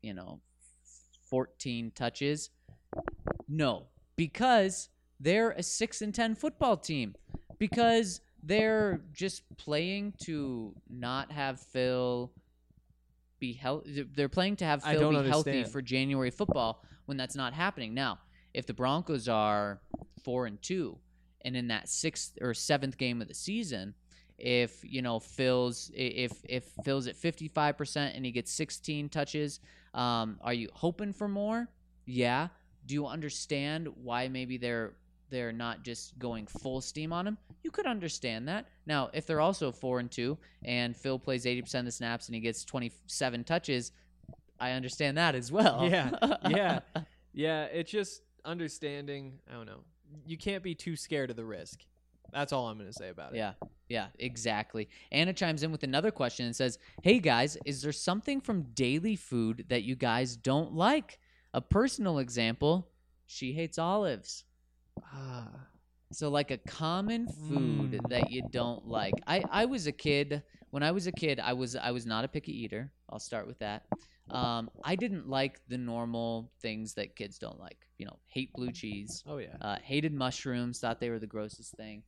14 touches? No, because they're a 6-10 football team. Because they're just playing to not have Phil be healthy. They're playing to have Phil be healthy for January football when that's not happening. Now, if the Broncos are 4-2 and in that 6th or 7th game of the season, if Phil's at 55% and he gets 16 touches, are you hoping for more? Yeah. Do you understand why maybe they're not just going full steam on him? You could understand that. Now, if they're also 4-2 and Phil plays 80% of the snaps and he gets 27 touches, I understand that as well. Yeah. It's just understanding. I don't know. You can't be too scared of the risk. That's all I'm going to say about it. Yeah, exactly. Anna chimes in with another question and says, "Hey guys, is there something from daily food that you guys don't like? A personal example, she hates olives." So like a common food that you don't like. I was a kid. When I was a kid, I was not a picky eater. I'll start with that. I didn't like the normal things that kids don't like. Hate blue cheese. Oh yeah. Hated mushrooms. Thought they were the grossest thing.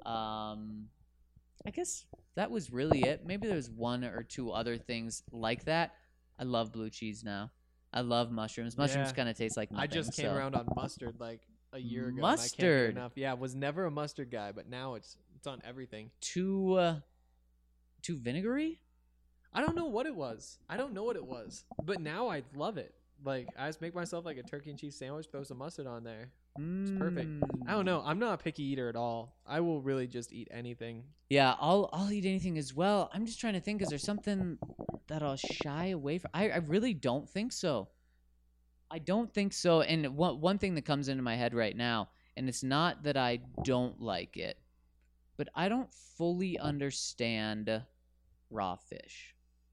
I guess that was really it. Maybe there was one or two other things like that. I love blue cheese now. I love mushrooms. Mushrooms Yeah. kind of taste like nothing. I just came so. around on mustard like a year ago. Mustard. And I can't get enough. Yeah, was never a mustard guy, but now it's on everything. Too vinegary. I don't know what it was. But now I love it. Like, I just make myself like a turkey and cheese sandwich, throw some mustard on there. It's perfect. I don't know. I'm not a picky eater at all. I will really just eat anything. Yeah, I'll eat anything as well. I'm just trying to think. Is there something that I'll shy away from? I really don't think so. I don't think so. And one thing that comes into my head right now, and it's not that I don't like it, but I don't fully understand raw fish.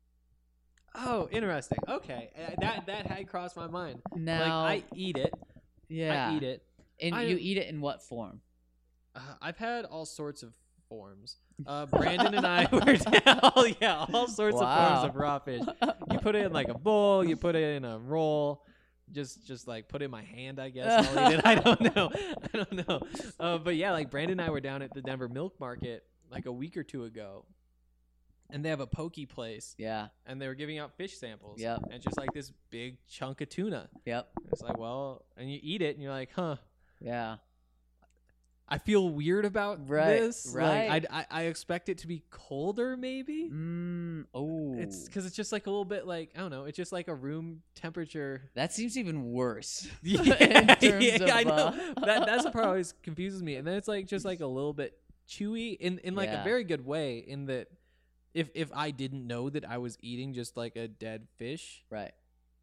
Oh, interesting. Okay, that had crossed my mind. Now, like, I eat it. yeah, I eat it. And you eat it in what form? I've had all sorts of forms. Brandon and I were all sorts of forms of raw fish. You put it in like a bowl. You put it in a roll. Just like put it in my hand, I guess. I'll eat it. I don't know. But yeah, like Brandon and I were down at the Denver Milk Market like a week or two ago, and they have a poke place. Yeah. And they were giving out fish samples. Yep. And just like this big chunk of tuna. Yep. It's like, well, and you eat it, and you're like, huh. Yeah. I feel weird about this. Right. Like, I expect it to be colder, maybe. Oh. It's because it's just like a little bit like, I don't know. It's just like a room temperature. That seems even worse. Yeah, in terms of, I know. That's the part that always confuses me. And then it's like just like a little bit chewy in like a Yeah. very good way. In that, if I didn't know that I was eating just like a dead fish, Right.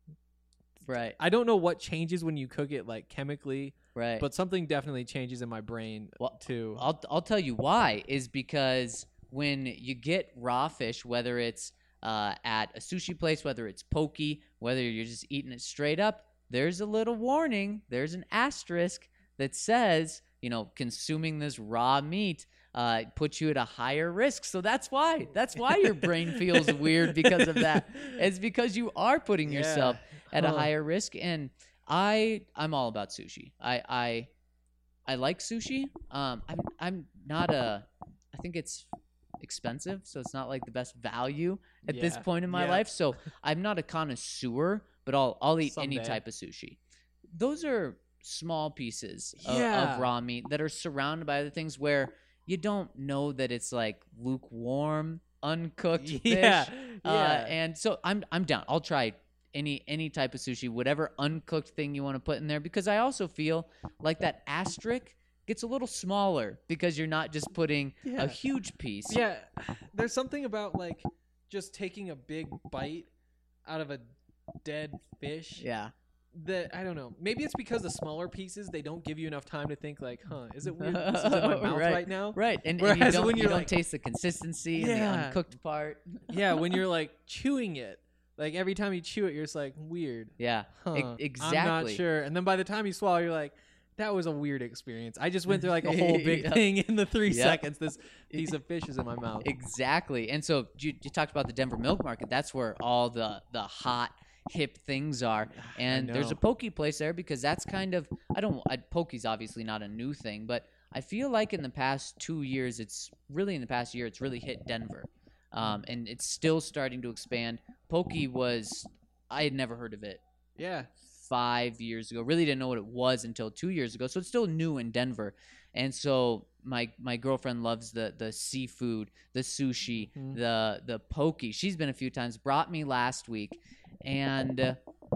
Right. I don't know what changes when you cook it like chemically. Right. But something definitely changes in my brain too. I'll tell you why is because when you get raw fish, whether it's at a sushi place, whether it's poke, whether you're just eating it straight up, there's a little warning. There's an asterisk that says, consuming this raw meat puts you at a higher risk. So that's why your brain feels weird because of that. It's because you are putting yourself at a higher risk. And I'm all about sushi. I like sushi. I'm not I think it's expensive, so it's not like the best value at this point in my life. So I'm not a connoisseur, but I'll eat any type of sushi. Those are small pieces of raw meat that are surrounded by other things where you don't know that it's like lukewarm, uncooked fish. And so I'm down. I'll try any type of sushi, whatever uncooked thing you want to put in there, because I also feel like that asterisk gets a little smaller because you're not just putting a huge piece. Yeah, there's something about like just taking a big bite out of a dead fish. Yeah. That I don't know. Maybe it's because the smaller pieces, they don't give you enough time to think like, is it weird that this is in my mouth right now? Right. And Whereas you don't, when you you're don't like, taste the consistency and the uncooked part. Yeah, when you're like chewing it, like every time you chew it, you're just like, weird. Yeah, exactly. I'm not sure. And then by the time you swallow, you're like, that was a weird experience. I just went through like a whole big thing in the 3 seconds. This piece of fish is in my mouth. Exactly. And so you talked about the Denver Milk Market. That's where all the hot, hip things are. And there's a poke place there because that's kind of, poke's obviously not a new thing, but I feel like in the past 2 years, it's really hit Denver. And it's still starting to expand. Poke I had never heard of it. Yeah. 5 years ago. Really didn't know what it was until 2 years ago. So it's still new in Denver. And so my girlfriend loves the seafood, the sushi, the poke. She's been a few times, brought me last week. And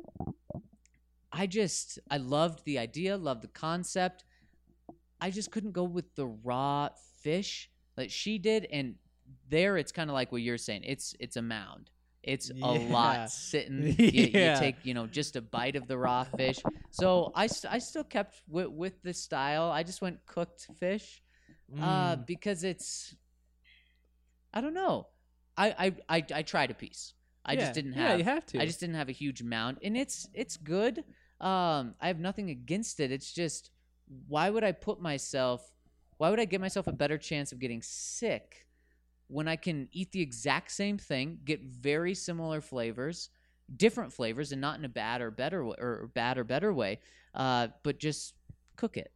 I loved the idea, loved the concept. I just couldn't go with the raw fish like she did. And there it's kind of like what you're saying. It's a mound. It's a lot sitting. You take, just a bite of the raw fish. So I still kept with the style. I just went cooked fish because it's, I don't know. I tried a piece. I just didn't have. Yeah, you have to. I just didn't have a huge mound, and it's good. I have nothing against it. It's just, why would I give myself a better chance of getting sick when I can eat the exact same thing, get very similar flavors, different flavors, and not in a bad or better or bad or better way, but just cook it.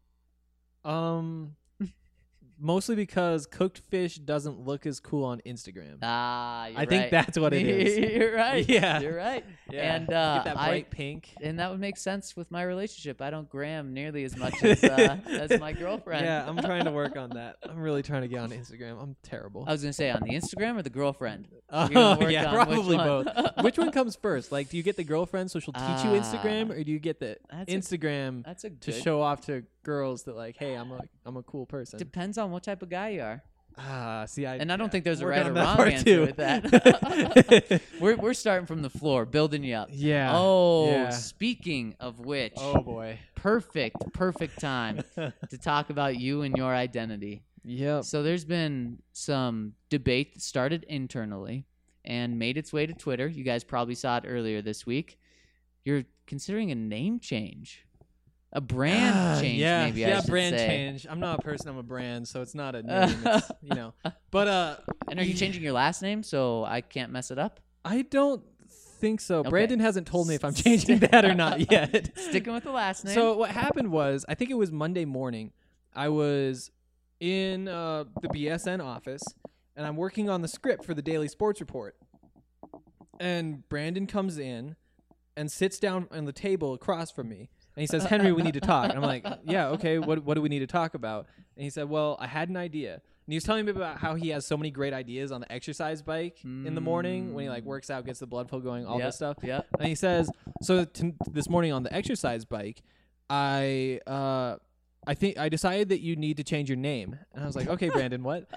Mostly because cooked fish doesn't look as cool on Instagram. You're I think that's what it is. You're right. Yeah. You're right. Yeah. And Get that bright pink. and that would make sense with my relationship. I don't gram nearly as much as my girlfriend. Yeah, I'm trying to work on that. I'm really trying to get on Instagram. I'm terrible. I was gonna say on the Instagram or the girlfriend. You're Oh, gonna work yeah, on which probably one? both. Which one comes first? Like, do you get the girlfriend so she'll teach you Instagram, or do you get the That's a- Instagram That's a to good. show off to girls that like, hey, I'm a cool person? Depends on what type of guy you are. See, And I don't think there's a working right or on that wrong part answer too. with that. we're starting from the floor, building you up. Yeah. Oh, yeah. speaking of which, Oh boy. perfect time to talk about you and your identity. Yep. So there's been some debate that started internally and made its way to Twitter. You guys probably saw it earlier this week. You're considering a name change. A brand change, yeah, maybe I yeah, should brand say. change. I'm not a person. I'm a brand, so it's not a name. It's, but And are you changing your last name so I can't mess it up? I don't think so. Okay. Brandon hasn't told me if I'm changing that or not yet. Sticking with the last name. So what happened was, I think it was Monday morning. I was in the BSN office, and I'm working on the script for the daily sports report. And Brandon comes in and sits down on the table across from me. And he says, Henry, we need to talk. And I'm like, yeah, okay, what do we need to talk about? And he said, well, I had an idea. And he was telling me about how he has so many great ideas on the exercise bike in the morning when he like works out, gets the blood flow going, all Yep, this stuff. yep. And he says, so this morning on the exercise bike, I think I decided that you need to change your name. And I was like, okay, Brandon, what?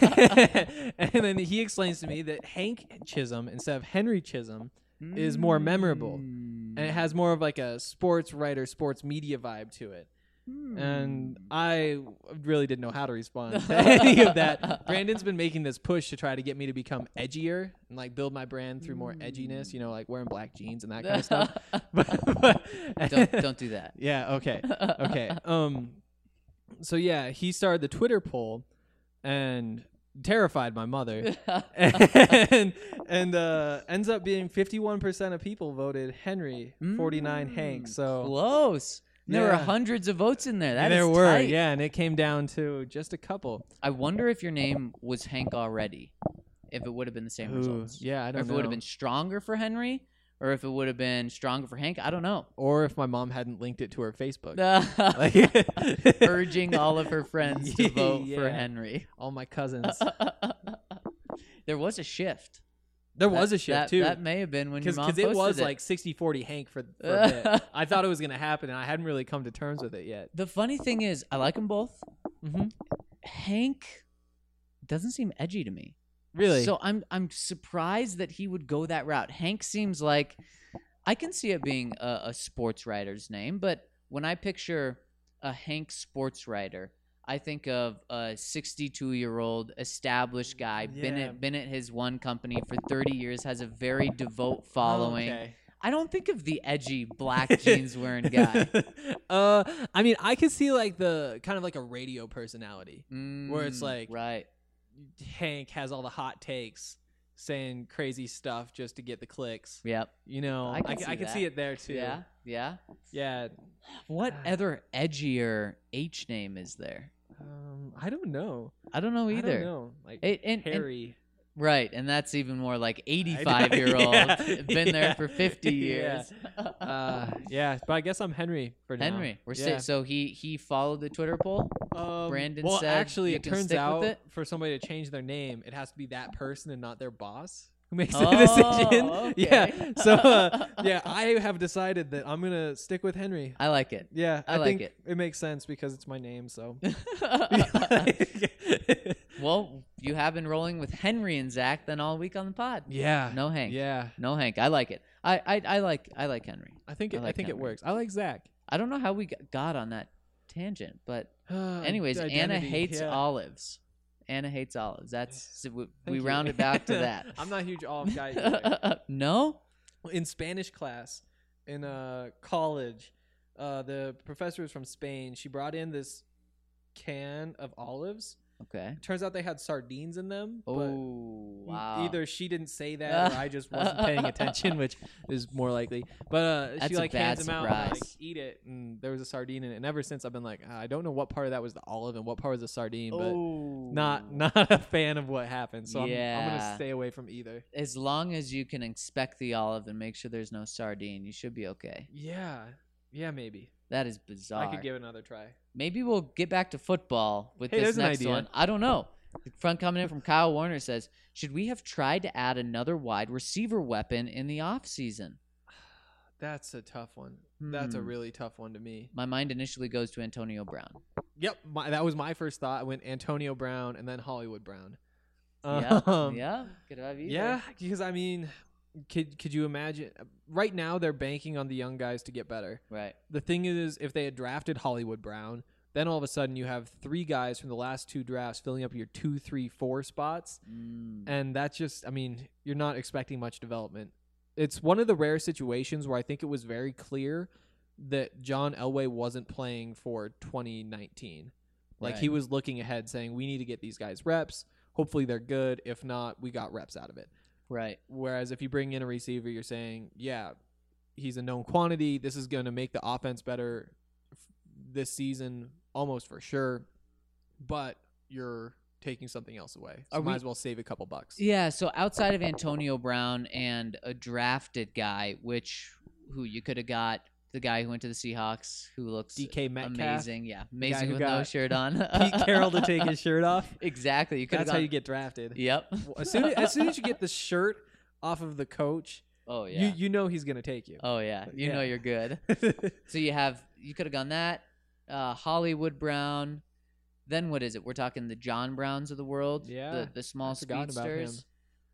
And then he explains to me that Hank Chisholm instead of Henry Chisholm is more memorable. And it has more of like a sports writer, sports media vibe to it. And I really didn't know how to respond to any of that. Brandon's been making this push to try to get me to become edgier and like build my brand through more edginess, like wearing black jeans and that kind of stuff. Don't do that. Yeah, okay. Okay. So yeah, he started the Twitter poll and terrified my mother. and ends up being 51% of people voted Henry, 49 Hank. So Close. There were Yeah. hundreds of votes in there. That there is were, tight. yeah, and it came down to just a couple. I wonder if your name was Hank already, if it would have been the same results. Yeah, I Or don't if know. it would have been stronger for Henry, or if it would have been stronger for Hank. I don't know. Or if my mom hadn't linked it to her Facebook. Urging all of her friends to vote for Yeah. Henry. All my cousins. There was a shift. There was a shift, too. That may have been when your mom Because it was posted like 60-40 Hank for a bit. I thought it was going to happen, and I hadn't really come to terms with it yet. The funny thing is, I like them both. Mm-hmm. Hank doesn't seem edgy to me. Really? So I'm surprised that he would go that route. Hank seems like I can see it being a sports writer's name, but when I picture a Hank sports writer, I think of a 62-year-old established guy, Yeah. been at his one company for 30 years, has a very devout following. Okay. I don't think of the edgy black jeans wearing guy. I mean, I could see like the kind of like a radio personality where it's like right. Hank has all the hot takes, saying crazy stuff just to get the clicks. Yep. I can see can that. see it there too. Yeah. Yeah. Yeah. What other edgier H name is there? I don't know. I don't know either. I don't know. Like And Harry. right, and that's even more like 85-year-old, Yeah, been there yeah, for 50 yeah. years. Yeah, but I guess I'm Henry for now. Henry, Yeah. so he followed the Twitter poll. Brandon well, said actually, you it can turns stick with out it? for somebody to change their name, it has to be that person and not their boss who makes the Oh, decision. okay. Yeah. So, yeah, I have decided that I'm gonna stick with Henry. I like it. Yeah, I like think it. it makes sense because it's my name. So. Well, you have been rolling with Henry and Zach then all week on the pod. Yeah. No Hank. Yeah. No Hank. I like it. I like Henry. I think I like it Henry. works. I like Zach. I don't know how we got on that tangent, but anyways, Anna Identity, hates yeah. olives. Anna hates olives. That's so we Thank you. round it back to that. I'm not a huge olive guy either. No? In Spanish class in college, the professor was from Spain. She brought in this can of olives, Okay. Turns out they had sardines in them. Oh, but wow. Either she didn't say that, or I just wasn't paying attention, which is more likely. But That's she a like bad hands them out, and I, like, surprise. eat it, and there was a sardine in it. And ever since, I've been like, I don't know what part of that was the olive and what part was the sardine, but Oh. not a fan of what happened. So I'm Yeah. gonna stay away from either. As long as you can inspect the olive and make sure there's no sardine, you should be okay. Yeah, maybe That is bizarre. I could give it another try. Maybe we'll get back to football with Hey, this there's an next idea. one. I don't know. Front coming in from Kyle Warner says, should we have tried to add another wide receiver weapon in the offseason? That's a tough one. That's a Hmm. really tough one to me. My mind initially goes to Antonio Brown. Yep, that was my first thought. I went Antonio Brown and then Hollywood Brown. Yeah, Um, yeah. Could have either. Yeah, because I mean, could you imagine? Right now, they're banking on the young guys to get better. Right. The thing is, if they had drafted Hollywood Brown, then all of a sudden you have 3 guys from the last 2 drafts filling up your 2, 3, 4 spots, and that's just, I mean, you're not expecting much development. It's one of the rare situations where I think it was very clear that John Elway wasn't playing for 2019. Like, Right. he was looking ahead saying, we need to get these guys reps. Hopefully they're good. If not, we got reps out of it. Right. Whereas if you bring in a receiver, you're saying, yeah, he's a known quantity. This is going to make the offense better this season, almost for sure. But you're taking something else away. So Are might we- as well save a couple bucks. Yeah, so outside of Antonio Brown and a drafted guy, who you could have got the guy who went to the Seahawks who looks DK Metcalf. amazing. Yeah, amazing who with no got shirt on. Pete Carroll to take his shirt off. Exactly. You could That's have how you get drafted. Yep. As soon as you get the shirt off of the coach, Oh yeah. you know he's going to take you. Oh yeah. You know Yeah. you're good. So you could have gone that Hollywood Brown. Then what is it? We're talking the John Browns of the world. Yeah, The small I forgot about him. speedsters.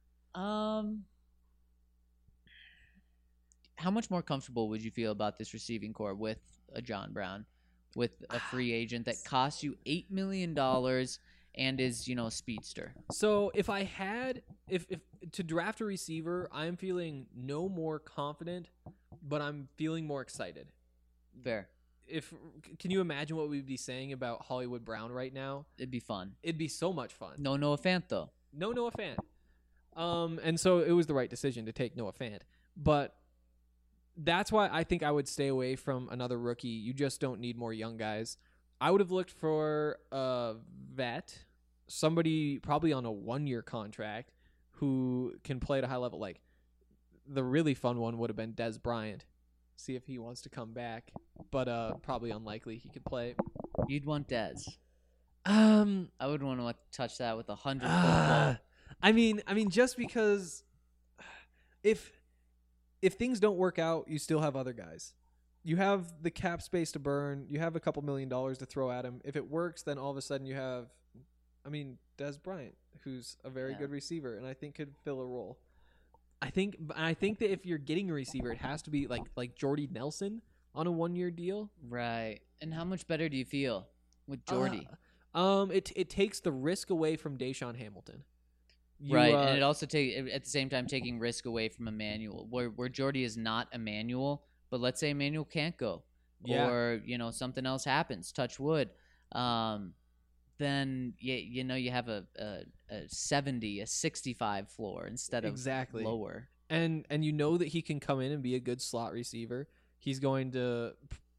How much more comfortable would you feel about this receiving core with a John Brown, with a free agent that costs you $8 million and is, a speedster? So if I had if to draft a receiver, I'm feeling no more confident, but I'm feeling more excited. Fair. Can you imagine what we'd be saying about Hollywood Brown right now? It'd be fun. It'd be so much fun. No Noah Fant though. No Noah Fant. And so it was the right decision to take Noah Fant. But that's why I think I would stay away from another rookie. You just don't need more young guys. I would have looked for a vet, somebody probably on a 1-year contract who can play at a high level. Like, the really fun one would have been Des Bryant. See if he wants to come back, but probably unlikely he could play. You'd want Dez. Um, I would want to touch that with 100 football. I mean, just because if things don't work out, you still have other guys. You have the cap space to burn. You have a couple $1 million to throw at him. If it works, then all of a sudden you have, Des Bryant, who's a very good receiver, and I think could fill a role. I think that if you're getting a receiver, it has to be like Jordy Nelson on a 1-year deal. Right. And how much better do you feel with Jordy? It takes the risk away from Deshaun Hamilton. Right, and it also at the same time taking risk away from Emmanuel, where Jordy is not Emmanuel, but let's say Emmanuel can't go, or something else happens, touch wood, then you have a 70, a 65 floor instead of exactly lower, and you know that he can come in and be a good slot receiver. He's going to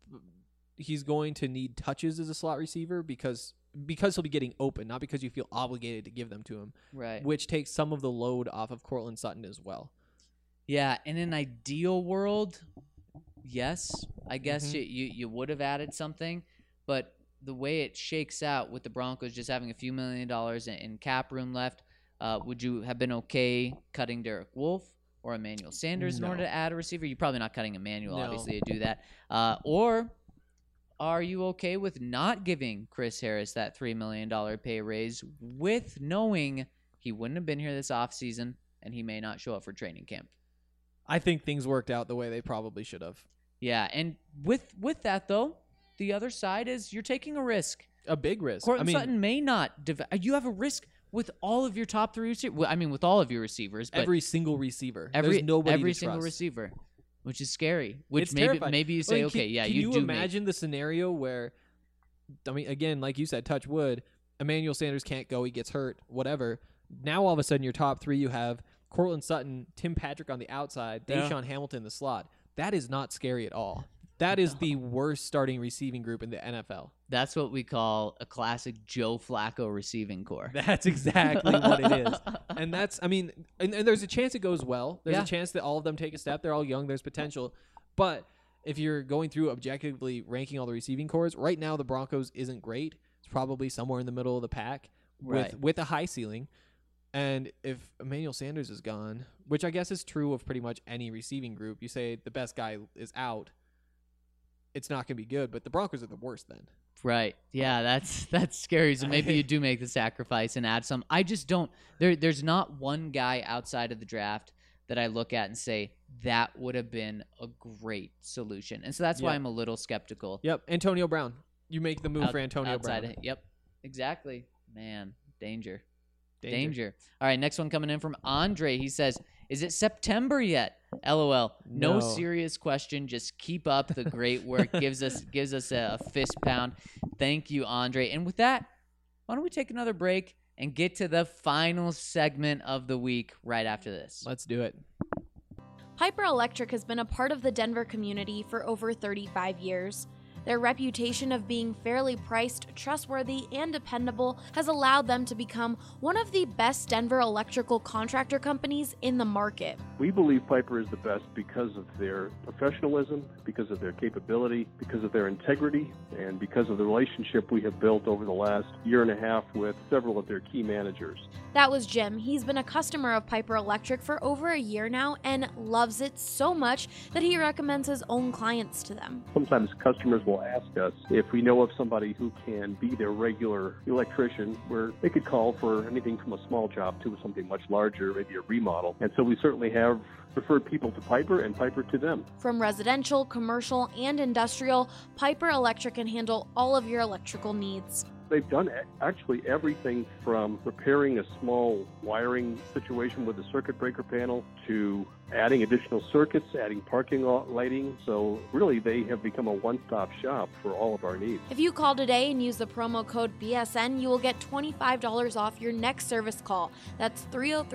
need touches as a slot receiver because he'll be getting open, not because you feel obligated to give them to him. right? Which takes some of the load off of Courtland Sutton as well. Yeah, in an ideal world, yes, I guess you would have added something, but the way it shakes out with the Broncos just having a few $1 million in cap room left, would you have been okay cutting Derek Wolfe or Emmanuel Sanders in order to add a receiver? You're probably not cutting Emmanuel, obviously, to do that. Or are you okay with not giving Chris Harris that $3 million pay raise with knowing he wouldn't have been here this offseason and he may not show up for training camp? I think things worked out the way they probably should have. Yeah, and with that, though, the other side is you're taking a risk. A big risk. Courtland Sutton may not. You have a risk with all of your top 3 receivers. Well, with all of your receivers. But every single receiver. Every There's nobody every to single trust. receiver, which is scary. Which It's maybe terrifying. maybe you say, Can okay, yeah, you you do imagine the scenario where, again, like you said, touch wood, Emmanuel Sanders can't go, he gets hurt, whatever. Now all of a sudden your top 3, you have Cortland Sutton, Tim Patrick on the outside, Deshaun Hamilton in the slot. That is not scary at all. That is the worst starting receiving group in the NFL. That's what we call a classic Joe Flacco receiving core. That's exactly what it is. And that's, I mean, and there's a chance it goes well. There's a chance that all of them take a step. They're all young. There's potential. But if you're going through objectively ranking all the receiving cores, right now the Broncos isn't great. It's probably somewhere in the middle of the pack with a high ceiling. And if Emmanuel Sanders is gone, which I guess is true of pretty much any receiving group, you say the best guy is out, it's not going to be good, but the Broncos are the worst then. Right. Yeah, that's scary. So maybe you do make the sacrifice and add some. I just don't. There's not one guy outside of the draft that I look at and say that would have been a great solution. And so that's why I'm a little skeptical. Yep. Antonio Brown. You make the move for Antonio Brown. Yep. Exactly. Man, danger. All right, next one coming in from Andre. He says, is it September yet? LOL. No serious question. Just keep up the great work. gives us a fist pound. Thank you, Andre. And with that, why don't we take another break and get to the final segment of the week right after this? Let's do it. Piper Electric has been a part of the Denver community for over 35 years. Their reputation of being fairly priced, trustworthy, and dependable has allowed them to become one of the best Denver electrical contractor companies in the market. We believe Piper is the best because of their professionalism, because of their capability, because of their integrity, and because of the relationship we have built over the last year and a half with several of their key managers. That was Jim. He's been a customer of Piper Electric for over a year now and loves it so much that he recommends his own clients to them. Sometimes customers will ask us if we know of somebody who can be their regular electrician, where they could call for anything from a small job to something much larger, maybe a remodel. And so we certainly have referred people to Piper and Piper to them. From residential, commercial, and industrial, Piper Electric can handle all of your electrical needs. They've done actually everything from repairing a small wiring situation with a circuit breaker panel to adding additional circuits, adding parking lighting. So really, they have become a one-stop shop for all of our needs. If you call today and use the promo code BSN, you will get $25 off your next service call. That's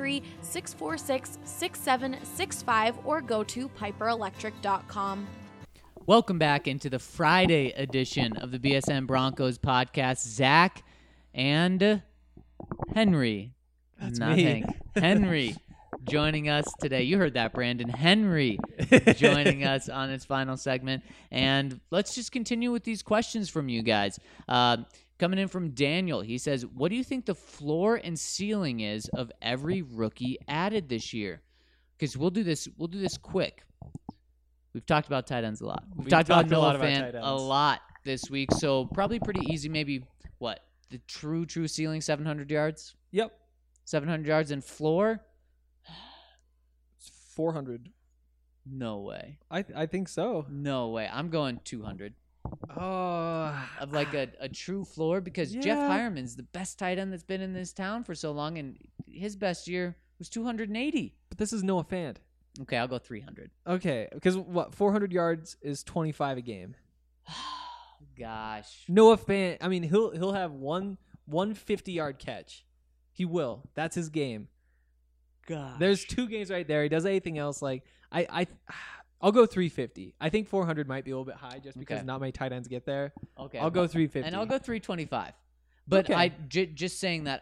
303-646-6765 or go to piperelectric.com. Welcome back into the Friday edition of the BSN Broncos podcast. Zach and Henry. That's not me. Hank. Henry joining us today. You heard that, Brandon. Henry joining us on its final segment. And let's just continue with these questions from you guys. Coming in from Daniel, he says, what do you think the floor and ceiling is of every rookie added this year? Because we'll do this quick. We've talked about tight ends a lot. We've talked about Noah Fant a lot this week, so probably pretty easy. Maybe, what, the true ceiling, 700 yards? Yep. 700 yards and floor? It's 400. No way. I think so. No way. I'm going 200. Oh. Of like a true floor, because Jeff Hireman's the best tight end that's been in this town for so long, and his best year was 280. But this is Noah Fant. Okay, I'll go 300. Okay, because 400 yards is 25 a game. Gosh. Noah Fant, I mean, he'll have one 50-yard catch. He will. That's his game. Gosh. There's 2 games right there. He does anything else like I'll go 350. I think 400 might be a little bit high just because not many tight ends get there. Okay. I'll go 350. And I'll go 325. But just saying that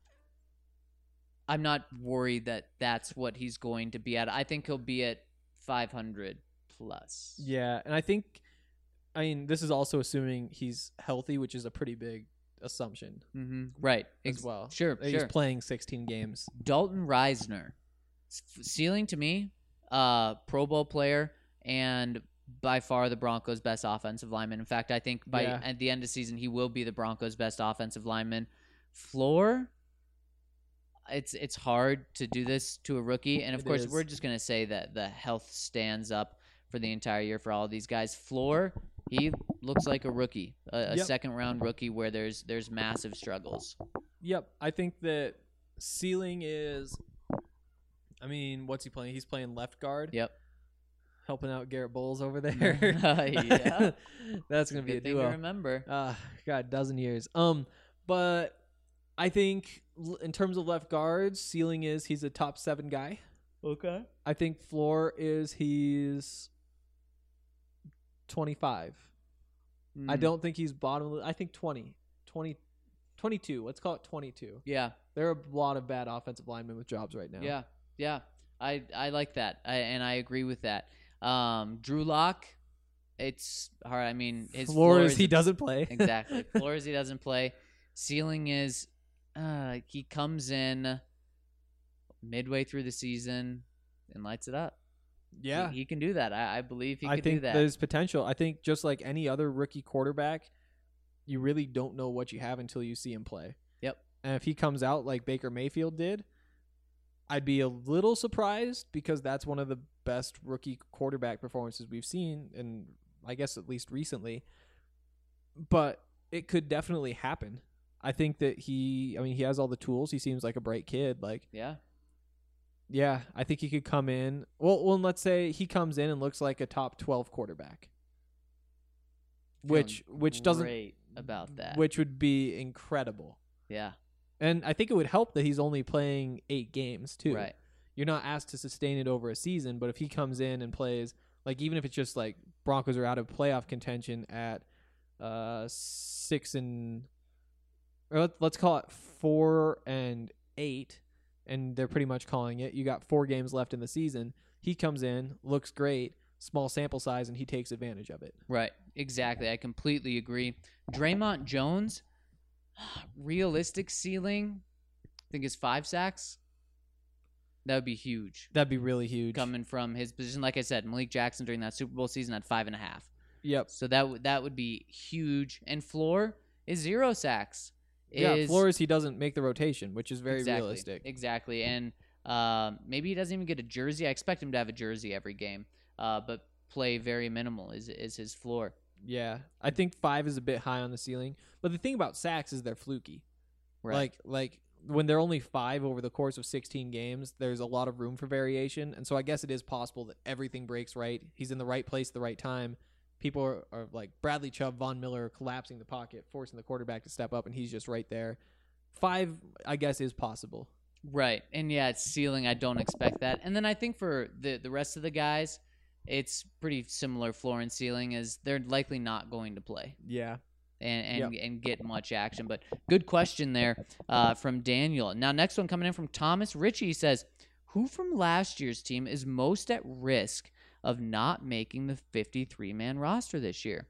I'm not worried that that's what he's going to be at. I think he'll be at 500 plus. Yeah, and I mean, this is also assuming he's healthy, which is a pretty big assumption. Mm-hmm. Right. As well. Sure. He's playing 16 games. Dalton Reisner. Ceiling to me, Pro Bowl player, and by far the Broncos' best offensive lineman. In fact, I think at the end of the season, he will be the Broncos' best offensive lineman. Floor, it's hard to do this to a rookie. And, of course, we're just going to say that the health stands up for the entire year for all of these guys. Floor, he looks like a rookie, a second-round rookie where there's massive struggles. Yep. I think that ceiling is, I mean, what's he playing? He's playing left guard. Yep. Helping out Garrett Bowles over there. Yeah. That's going to be Good a thing duo. to remember. God, a dozen years. But I think in terms of left guards, ceiling is he's a top 7 guy. Okay. I think floor is he's 25. I don't think he's bottom. I think 20, 22. Let's call it 22. Yeah. There are a lot of bad offensive linemen with jobs right now. Yeah. Yeah. I like that. And I agree with that. Drew Lock, it's hard. I mean, his floor is he doesn't play. Exactly. Floor is he doesn't play. Ceiling is he comes in midway through the season and lights it up. Yeah. He can do that. I believe he I could think do that. there's potential. I think just like any other rookie quarterback, you really don't know what you have until you see him play. Yep. And if he comes out like Baker Mayfield did, I'd be a little surprised because that's one of the best rookie quarterback performances we've seen, and I guess at least recently. But it could definitely happen. I think that he has all the tools. He seems like a bright kid. Like, yeah, I think he could come in. Well, let's say he comes in and looks like a top 12 quarterback, which doesn't great about that. which would be incredible. Yeah. And I think it would help that he's only playing 8 games too. Right. You're not asked to sustain it over a season, but if he comes in and plays, like even if it's just like Broncos are out of playoff contention at 6 and, or let's call it 4 and 8, and they're pretty much calling it. You got 4 games left in the season. He comes in, looks great, small sample size, and he takes advantage of it. Right. Exactly. I completely agree. Draymond Jones, realistic ceiling, I think is 5 sacks. That would be huge. That'd be really huge. Coming from his position, like I said, Malik Jackson during that Super Bowl season had 5.5. Yep. So that would be huge. And floor is 0 sacks. Yeah, floor is he doesn't make the rotation, which is very realistic. Exactly. And maybe he doesn't even get a jersey. I expect him to have a jersey every game, but play very minimal is his floor. Yeah, I think 5 is a bit high on the ceiling. But the thing about sacks is they're fluky. Right. Like when they're only 5 over the course of 16 games, there's a lot of room for variation. And so I guess it is possible that everything breaks right. He's in the right place at the right time. People are like Bradley Chubb, Von Miller collapsing the pocket, forcing the quarterback to step up, and he's just right there. 5, I guess, is possible. Right. And yeah, it's ceiling. I don't expect that. And then I think for the rest of the guys, it's pretty similar floor and ceiling, as they're likely not going to play. Yeah. And get much action. But good question there from Daniel. Now, next one coming in from Thomas Ritchie says, who from last year's team is most at risk of not making the 53-man roster this year?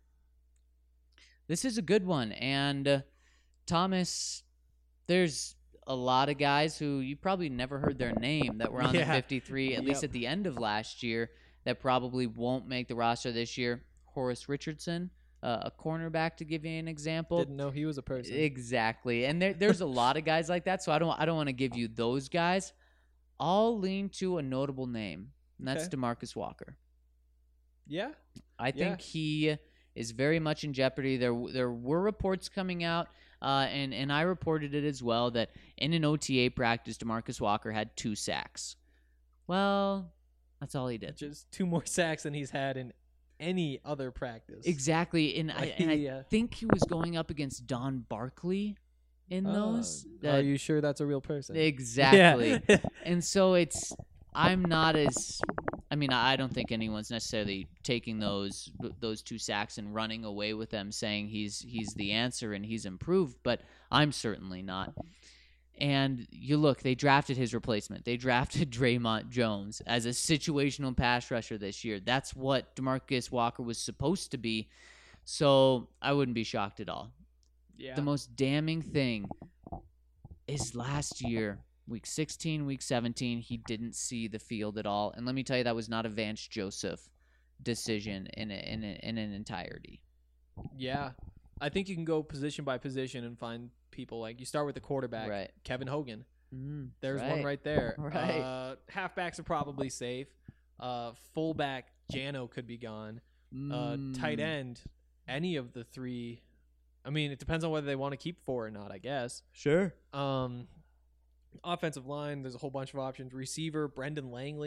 This is a good one. And Thomas, there's a lot of guys who you probably never heard their name that were on the 53, at least at the end of last year, that probably won't make the roster this year. Horace Richardson, a cornerback, to give you an example. Didn't know he was a person. Exactly. And there's a lot of guys like that, so I don't want to give you those guys. I'll lean to a notable name, and that's DeMarcus Walker. Yeah. I think he is very much in jeopardy. There were reports coming out, and I reported it as well, that in an OTA practice, DeMarcus Walker had 2 sacks. Well, that's all he did. Just 2 more sacks than he's had in any other practice. Exactly. And I think he was going up against Don Barkley in those. Are you sure that's a real person? Exactly. Yeah. And so I'm not as, I mean, I don't think anyone's necessarily taking those 2 sacks and running away with them saying he's the answer and he's improved, but I'm certainly not. And you look, they drafted his replacement. They drafted Draymond Jones as a situational pass rusher this year. That's what DeMarcus Walker was supposed to be. So I wouldn't be shocked at all. Yeah. The most damning thing is last year, week 16, week 17, he didn't see the field at all. And let me tell you, that was not a Vance Joseph decision in an entirety. Yeah. I think you can go position by position and find people. Like, you start with the quarterback, right. Kevin Hogan. There's right. one right there. Right. Halfbacks are probably safe. Fullback, Jano could be gone. Tight end, any of the 3. I mean, it depends on whether they want to keep 4 or not, I guess. Sure. Offensive line, there's a whole bunch of options. Receiver, Brendan Langley.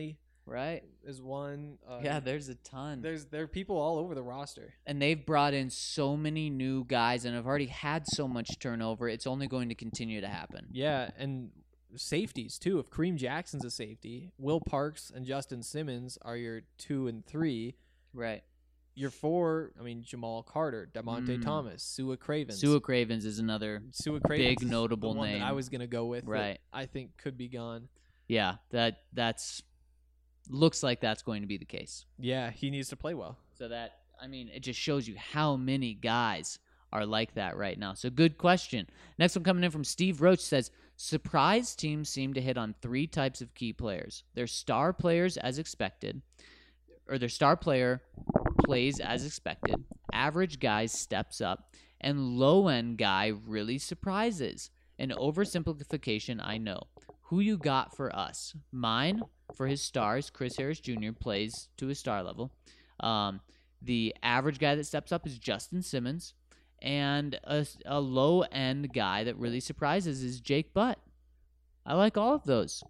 Right. is one. Yeah, there's a ton. There are people all over the roster. And they've brought in so many new guys and have already had so much turnover. It's only going to continue to happen. Yeah, and safeties too. If Kareem Jackson's a safety, Will Parks and Justin Simmons are your 2 and 3. Right. Your 4, I mean, Jamal Carter, Damonte Thomas, Sua Cravens. Sua Cravens is another Sua Cravens big notable the one name. that I was gonna go with. Right. That I think could be gone. Yeah, that's looks like that's going to be the case. Yeah, he needs to play well. So that, I mean, it just shows you how many guys are like that right now. So good question. Next one coming in from Steve Roach says, surprise teams seem to hit on 3 types of key players. Their star players as expected, or their star player plays as expected, average guy steps up, and low-end guy really surprises. An oversimplification, I know. Who you got for us? Mine, for his stars, Chris Harris Jr. plays to his star level. The average guy that steps up is Justin Simmons. And a low-end guy that really surprises is Jake Butt. I like all of those.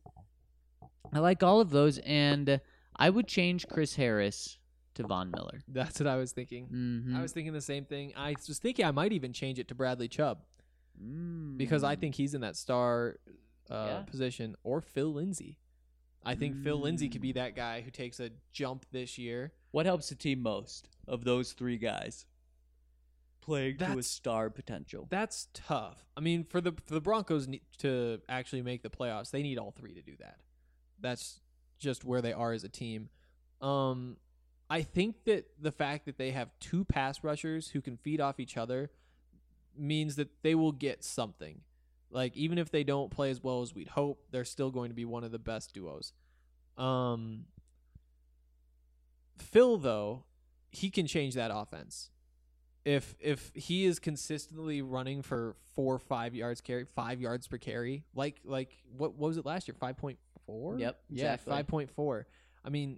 And I would change Chris Harris to Von Miller. That's what I was thinking. Mm-hmm. I was thinking the same thing. I was thinking I might even change it to Bradley Chubb because I think he's in that star position, or Phil Lindsay. I think Phil Lindsay could be that guy who takes a jump this year. What helps the team most of those 3 guys? Playing to a star potential. That's tough. I mean, for the Broncos to actually make the playoffs, they need all 3 to do that. That's just where they are as a team. I think that the fact that they have 2 pass rushers who can feed off each other means that they will get something. Like, even if they don't play as well as we'd hope, they're still going to be one of the best duos. Phil, though, he can change that offense. If he is consistently running for 4 or 5 yards carry, 5 yards per carry, like what was it last year? 5.4? Yep. Exactly. Yeah, 5.4. I mean,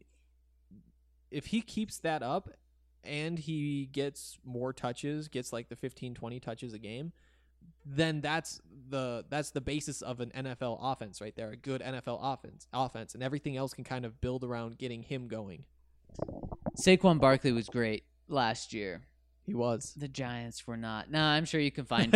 if he keeps that up and he gets more touches, gets like the 15, 20 touches a game, then that's the basis of an NFL offense right there, a good NFL offense, and everything else can kind of build around getting him going. Saquon Barkley was great last year. He was. The Giants were not. No, I'm sure you can find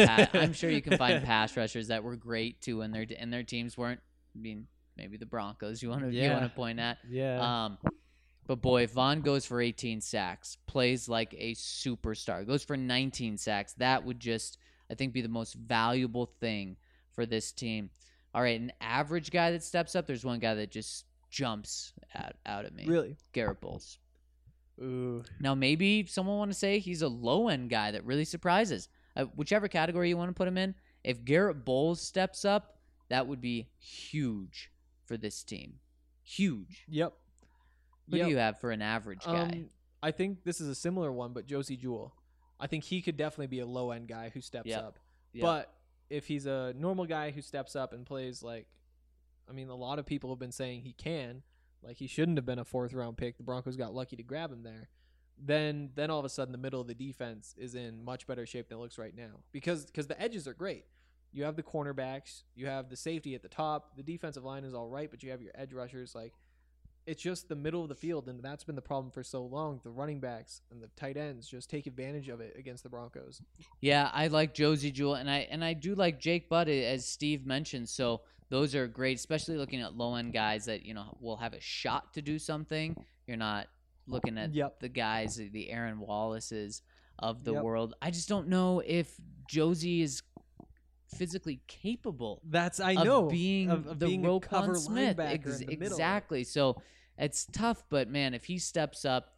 pass rushers that were great too, and their teams weren't. I mean, maybe the Broncos. You want to point at? Yeah. But boy, if Vaughn goes for 18 sacks, plays like a superstar, goes for 19 sacks, that would just, I think, be the most valuable thing for this team. All right, an average guy that steps up. There's one guy that just jumps out at me. Really? Garrett Bowles. Ooh. Now, maybe someone want to say he's a low-end guy that really surprises. Whichever category you want to put him in, if Garrett Bowles steps up, that would be huge for this team. Huge. Yep. What do you have for an average guy? I think this is a similar one, but Josie Jewell. I think he could definitely be a low-end guy who steps up. Yep. But if he's a normal guy who steps up and plays like, I mean, a lot of people have been saying he can. Like, he shouldn't have been a 4th-round pick. The Broncos got lucky to grab him there. Then all of a sudden, the middle of the defense is in much better shape than it looks right now. Because the edges are great. You have the cornerbacks. You have the safety at the top. The defensive line is all right, but you have your edge rushers. Like, it's just the middle of the field, and that's been the problem for so long. The running backs and the tight ends just take advantage of it against the Broncos. Yeah, I like Josie Jewell, and I do like Jake Butt, as Steve mentioned. So those are great, especially looking at low-end guys that, will have a shot to do something. You're not looking at the guys, the Aaron Wallaces of the world. I just don't know if Josie is physically capable of being Roquan Smith. Exactly. So it's tough, but man, if he steps up,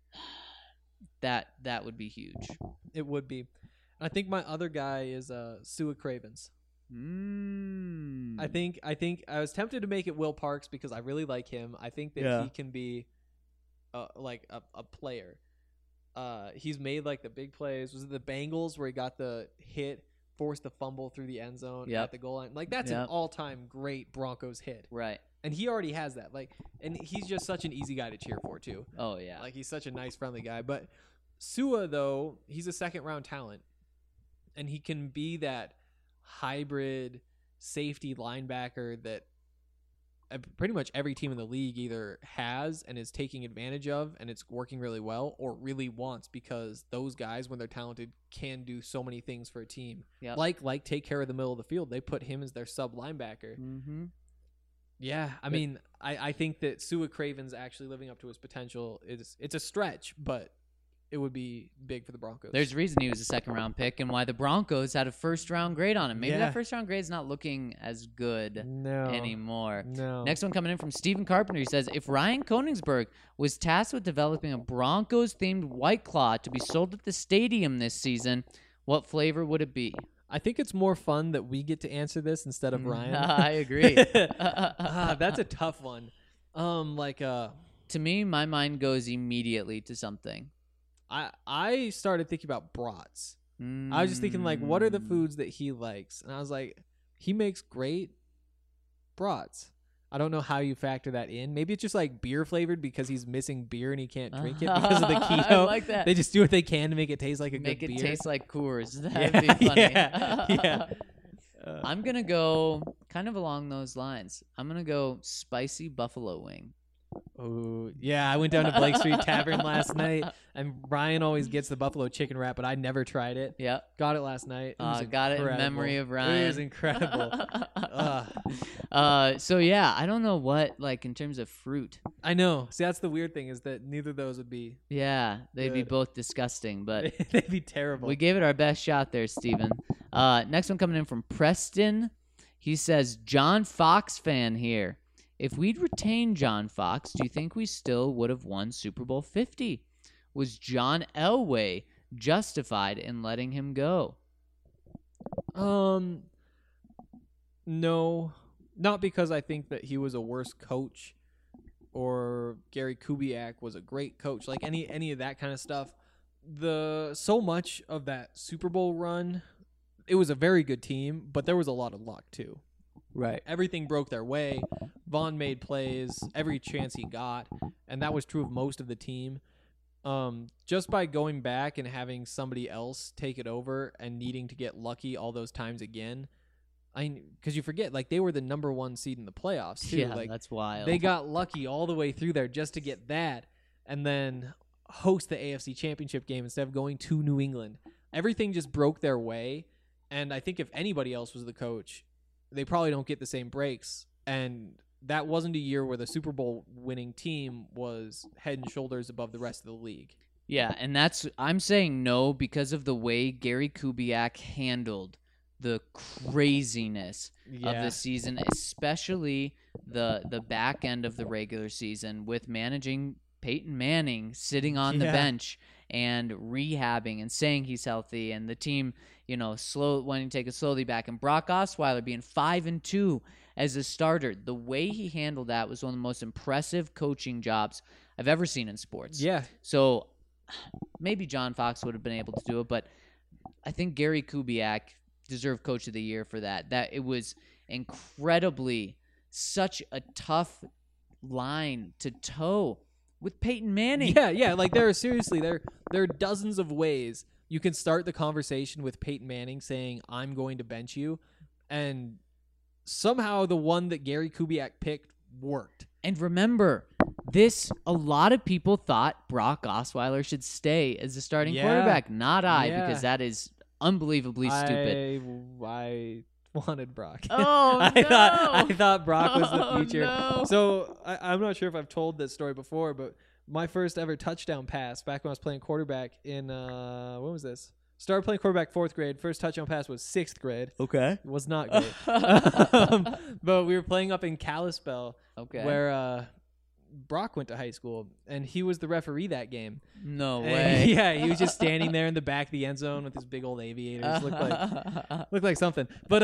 that would be huge. It would be. I think my other guy is Sua Cravens. I think I was tempted to make it Will Parks because I really like him. I think that he can be like a player. He's made like the big plays. Was it the Bengals where he got the hit, forced the fumble through the end zone at the goal line? Like, that's an all-time great Broncos hit. Right. And he already has that. Like, and he's just such an easy guy to cheer for too. Oh yeah. Like, he's such a nice, friendly guy. But Sua, though, he's a 2nd-round talent, and he can be that hybrid safety linebacker that pretty much every team in the league either has and is taking advantage of, and it's working really well, or really wants, because those guys, when they're talented, can do so many things for a team. Yep. Like take care of the middle of the field. They put him as their sub linebacker. Mm-hmm. Yeah, I mean, I think that Sua Craven's actually living up to his potential. It's a stretch, but it would be big for the Broncos. There's a reason he was a second-round pick and why the Broncos had a first-round grade on him. Maybe that first-round grade's not looking as good anymore. No. Next one coming in from Stephen Carpenter. He says, if Ryan Koenigsberg was tasked with developing a Broncos-themed White Claw to be sold at the stadium this season, what flavor would it be? I think it's more fun that we get to answer this instead of Ryan. I agree. That's a tough one. To me, my mind goes immediately to something. I started thinking about brats. I was just thinking, like, what are the foods that he likes? And I was like, he makes great brats. I don't know how you factor that in. Maybe it's just like beer flavored because he's missing beer and he can't drink it because of the keto. I like that. They just do what they can to make it taste like a make good beer. Make it taste like Coors. That'd be funny. Yeah. I'm going to go kind of along those lines. I'm going to go spicy buffalo wing. Oh, yeah. I went down to Blake Street Tavern last night, and Ryan always gets the buffalo chicken wrap, but I never tried it. Yep. Got it last night. It got it in memory of Ryan. It was incredible. So, yeah, I don't know what, like, in terms of fruit. I know. See, that's the weird thing is that neither of those would be. Yeah, they'd be good. both disgusting, but they'd be terrible. We gave it our best shot there, Steven. Next one coming in from Preston. He says, John Fox fan here. If we'd retained John Fox, do you think we still would have won Super Bowl 50? Was John Elway justified in letting him go? No. Not because I think that he was a worse coach or Gary Kubiak was a great coach. Like any of that kind of stuff. So much of that Super Bowl run, it was a very good team, but there was a lot of luck too. Right. Everything broke their way. Vaughn made plays every chance he got, and that was true of most of the team. Just by going back and having somebody else take it over and needing to get lucky all those times again, because you forget, like, they were the number 1 seed in the playoffs too. Yeah, like, that's wild. They got lucky all the way through there just to get that, and then host the AFC Championship game instead of going to New England. Everything just broke their way, and I think if anybody else was the coach, they probably don't get the same breaks. And that wasn't a year where the Super Bowl winning team was head and shoulders above the rest of the league. Yeah, and I'm saying no because of the way Gary Kubiak handled the craziness of the season, especially the back end of the regular season with managing Peyton Manning sitting on the bench and rehabbing and saying he's healthy, and the team, wanting to take it slowly back, and Brock Osweiler being 5-2 as a starter. The way he handled that was one of the most impressive coaching jobs I've ever seen in sports. Yeah. So maybe John Fox would have been able to do it, but I think Gary Kubiak deserved Coach of the Year for that. That it was incredibly such a tough line to toe with Peyton Manning. Yeah. Like there are dozens of ways you can start the conversation with Peyton Manning saying, I'm going to bench you, and somehow the one that Gary Kubiak picked worked. And remember, a lot of people thought Brock Osweiler should stay as the starting quarterback, not I, because that is unbelievably stupid. I wanted Brock. Oh, I thought Brock was the future. No. So I'm not sure if I've told this story before, but my first ever touchdown pass back when I was playing quarterback in when was this? Started playing quarterback 4th grade. First touchdown pass was 6th grade. Okay. It was not great. But we were playing up in Kalispell, where Brock went to high school, and he was the referee that game. No way. Yeah, he was just standing there in the back of the end zone with his big old aviators. Looked like something. But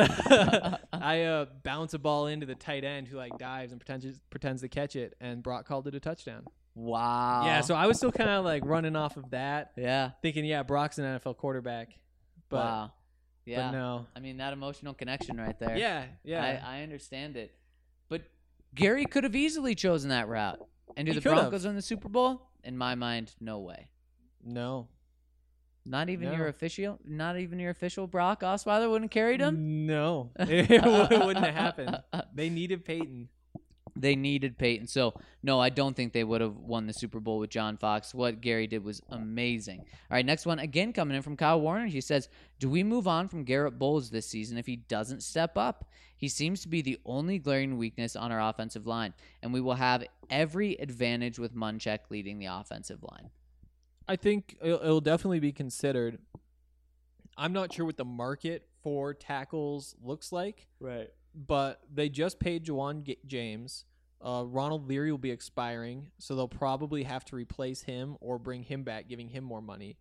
I bounce a ball into the tight end who dives and pretends to catch it, and Brock called it a touchdown. Wow. Yeah, so I was still kind of running off of that. Yeah. Thinking, Brock's an NFL quarterback. But, wow. Yeah. But no. I mean, that emotional connection right there. Yeah. I understand it. But Gary could have easily chosen that route. And do the Broncos win the Super Bowl? In my mind, no way. No. Not even your official Brock Osweiler wouldn't have carried him? No. It wouldn't have happened. They needed Peyton. They needed Peyton. So, no, I don't think they would have won the Super Bowl with John Fox. What Gary did was amazing. All right, next one, again coming in from Kyle Warner. He says, do we move on from Garrett Bowles this season if he doesn't step up? He seems to be the only glaring weakness on our offensive line, and we will have every advantage with Munchak leading the offensive line. I think it'll definitely be considered. I'm not sure what the market for tackles looks like. Right. But they just paid Juwan James. Ronald Leary will be expiring, so they'll probably have to replace him or bring him back, giving him more money.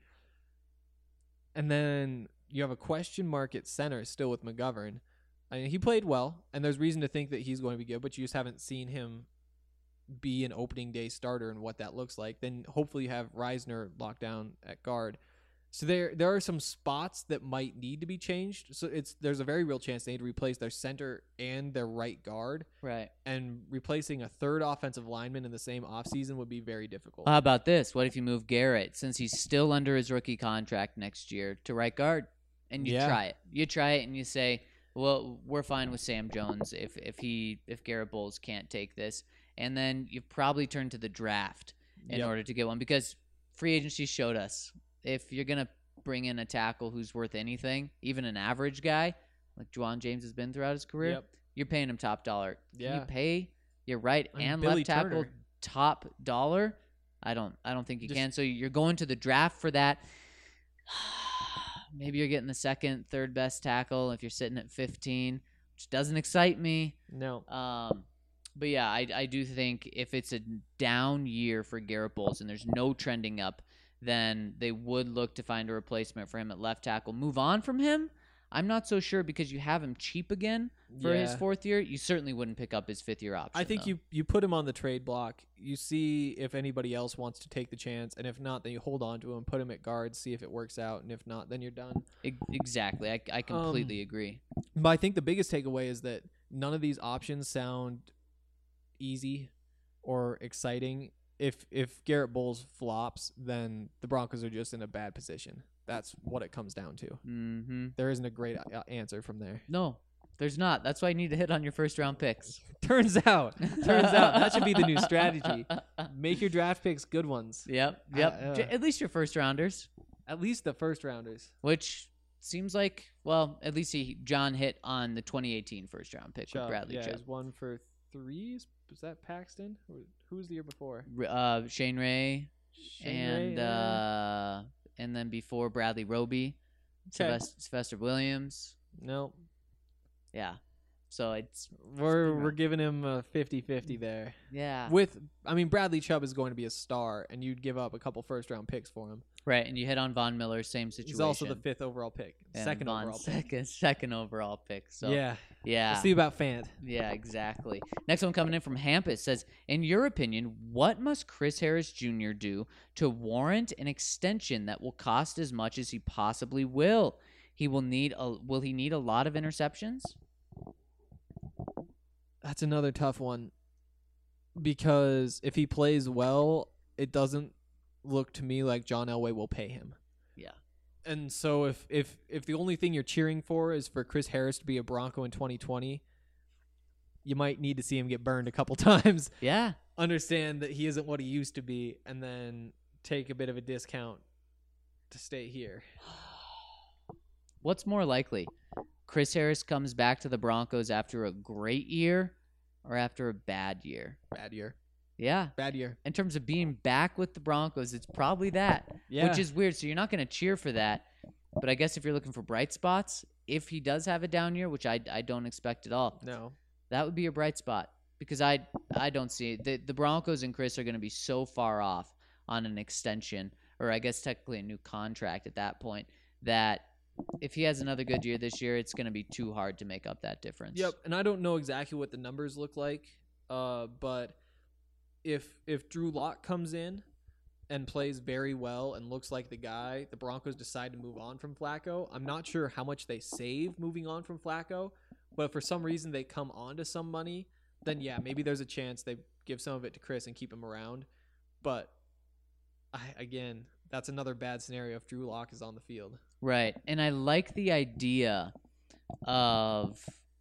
And then you have a question mark at center still with McGovern. I mean, he played well, and there's reason to think that he's going to be good, but you just haven't seen him be an opening day starter and what that looks like. Then hopefully you have Reisner locked down at guard. So there are some spots that might need to be changed. So there's a very real chance they need to replace their center and their right guard. Right. And replacing a third offensive lineman in the same offseason would be very difficult. How about this? What if you move Garrett, since he's still under his rookie contract next year, to right guard? And you try it. You try it and you say, well, we're fine with Sam Jones if Garrett Bowles can't take this. And then you probably turn to the draft in order to get one, because free agency showed us, if you're going to bring in a tackle who's worth anything, even an average guy, like Juwan James has been throughout his career, you're paying him top dollar. Can you pay your right and Billy left tackle Turner. top dollar? I don't think you can. So you're going to the draft for that. Maybe you're getting the second, third best tackle if you're sitting at 15, which doesn't excite me. No. But yeah, I do think if it's a down year for Garrett Bowles and there's no trending up, then they would look to find a replacement for him at left tackle. Move on from him? I'm not so sure, because you have him cheap again for his fourth year. You certainly wouldn't pick up his fifth-year option. I think you put him on the trade block. You see if anybody else wants to take the chance, and if not, then you hold on to him, put him at guard, see if it works out, and if not, then you're done. Exactly. I completely agree. But I think the biggest takeaway is that none of these options sound easy or exciting. If Garrett Bowles flops, then the Broncos are just in a bad position. That's what it comes down to. Mm-hmm. There isn't a great answer from there. No, there's not. That's why you need to hit on your first-round picks. Turns out. That should be the new strategy. Make your draft picks good ones. Yep. At least your first-rounders. At least the first-rounders. Which seems like, well, at least John hit on the 2018 first-round pick with Bradley Chubb. Yeah, he's 1 for 3. Was that Paxton? Who was the year before? Shane Ray, and then before Bradley Roby, Sylvester Williams. Nope. Yeah. So we're giving him a 50-50 there. Yeah. Bradley Chubb is going to be a star, and you'd give up a couple first-round picks for him. Right, and you hit on Von Miller, same situation. He's also the 5th overall pick. And second overall pick. So yeah. We'll see about Fant. Yeah, exactly. Next one coming in from Hampus says, in your opinion, what must Chris Harris Jr. do to warrant an extension that will cost as much as he possibly will? Will he need a lot of interceptions? That's another tough one, because if he plays well, it doesn't look to me like John Elway will pay him. Yeah. And so if the only thing you're cheering for is for Chris Harris to be a Bronco in 2020, you might need to see him get burned a couple times. Yeah. Understand that he isn't what he used to be, and then take a bit of a discount to stay here. What's more likely? Chris Harris comes back to the Broncos after a great year or after a bad year? Bad year. Yeah. Bad year. In terms of being back with the Broncos, it's probably that. Yeah. Which is weird. So you're not going to cheer for that. But I guess if you're looking for bright spots, if he does have a down year, which I don't expect at all, no, that would be a bright spot, because I don't see it. The Broncos and Chris are going to be so far off on an extension, or I guess technically a new contract at that point, that if he has another good year this year, it's going to be too hard to make up that difference. Yep, and I don't know exactly what the numbers look like, but if Drew Lock comes in and plays very well and looks like the guy, the Broncos decide to move on from Flacco. I'm not sure how much they save moving on from Flacco, but if for some reason they come on to some money, then yeah, maybe there's a chance they give some of it to Chris and keep him around. But again, that's another bad scenario if Drew Lock is on the field. Right. And I like the idea of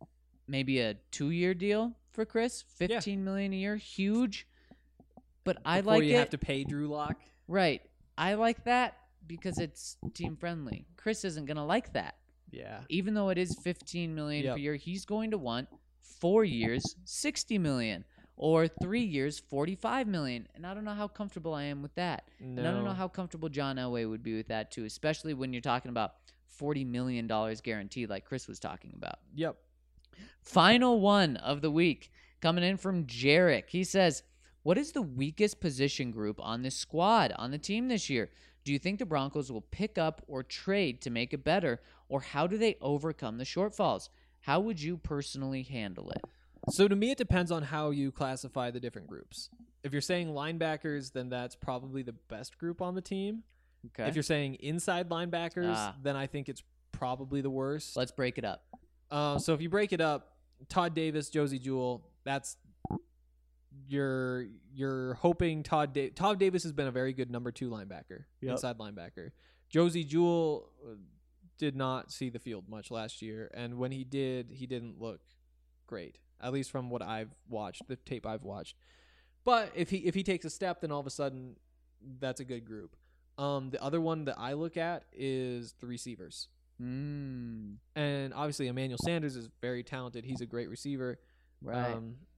maybe a 2-year deal for Chris, $15 million a year, huge. But I Before like you it. have to pay Drew Lock. Right. I like that because it's team friendly. Chris isn't going to like that. Yeah. Even though it is $15 million Yep. per year, he's going to want 4 years, $60 million, or 3 years, $45 million. And I don't know how comfortable I am with that. And I don't know how comfortable John Elway would be with that too, especially when you're talking about $40 million guaranteed like Chris was talking about. Yep. Final one of the week coming in from Jarek. He says, what is the weakest position group on this squad, on the team this year? Do you think the Broncos will pick up or trade to make it better, or how do they overcome the shortfalls? How would you personally handle it? So to me, it depends on how you classify the different groups. If you're saying linebackers, then that's probably the best group on the team. Okay. If you're saying inside linebackers, then I think it's probably the worst. Let's break it up. So if you break it up, Todd Davis, Josie Jewell, that's you're hoping Todd Davis has been a very good number 2 linebacker, inside linebacker. Josie Jewell did not see the field much last year, and when he did, he didn't look great, at least from what I've watched, the tape I've watched. But if he takes a step, then all of a sudden that's a good group. The other one that I look at is the receivers. And obviously Emmanuel Sanders is very talented. He's a great receiver. Right.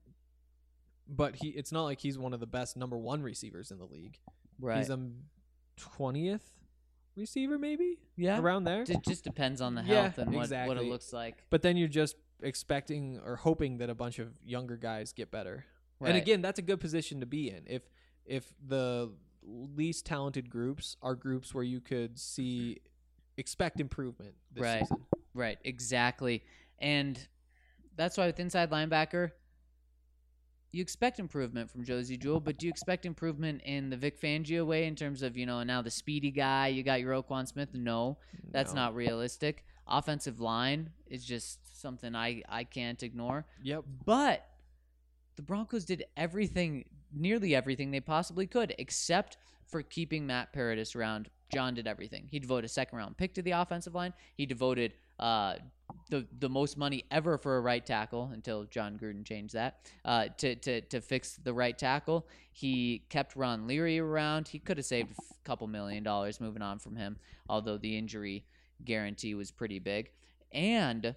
But it's not like he's one of the best number 1 receivers in the league. Right. He's a 20th receiver, maybe? Yeah. Around there. It just depends on the Yeah, health and what exactly. it looks like. But then you're just expecting or hoping that a bunch of younger guys get better. Right. And again, that's a good position to be in. If the least talented groups are groups where you could expect improvement this season. Right, exactly. And that's why with inside linebacker, you expect improvement from Josie Jewell, but do you expect improvement in the Vic Fangio way in terms of, now the speedy guy, you got your Roquan Smith? No, that's not realistic. Offensive line is just something I can't ignore. Yep. But the Broncos did nearly everything they possibly could, except for keeping Matt Paradis around. John did everything. He devoted a second-round pick to the offensive line. He devoted the most money ever for a right tackle until John Gruden changed that to fix the right tackle. He kept Ron Leary around. He could have saved a couple $1 million moving on from him, although the injury guarantee was pretty big. And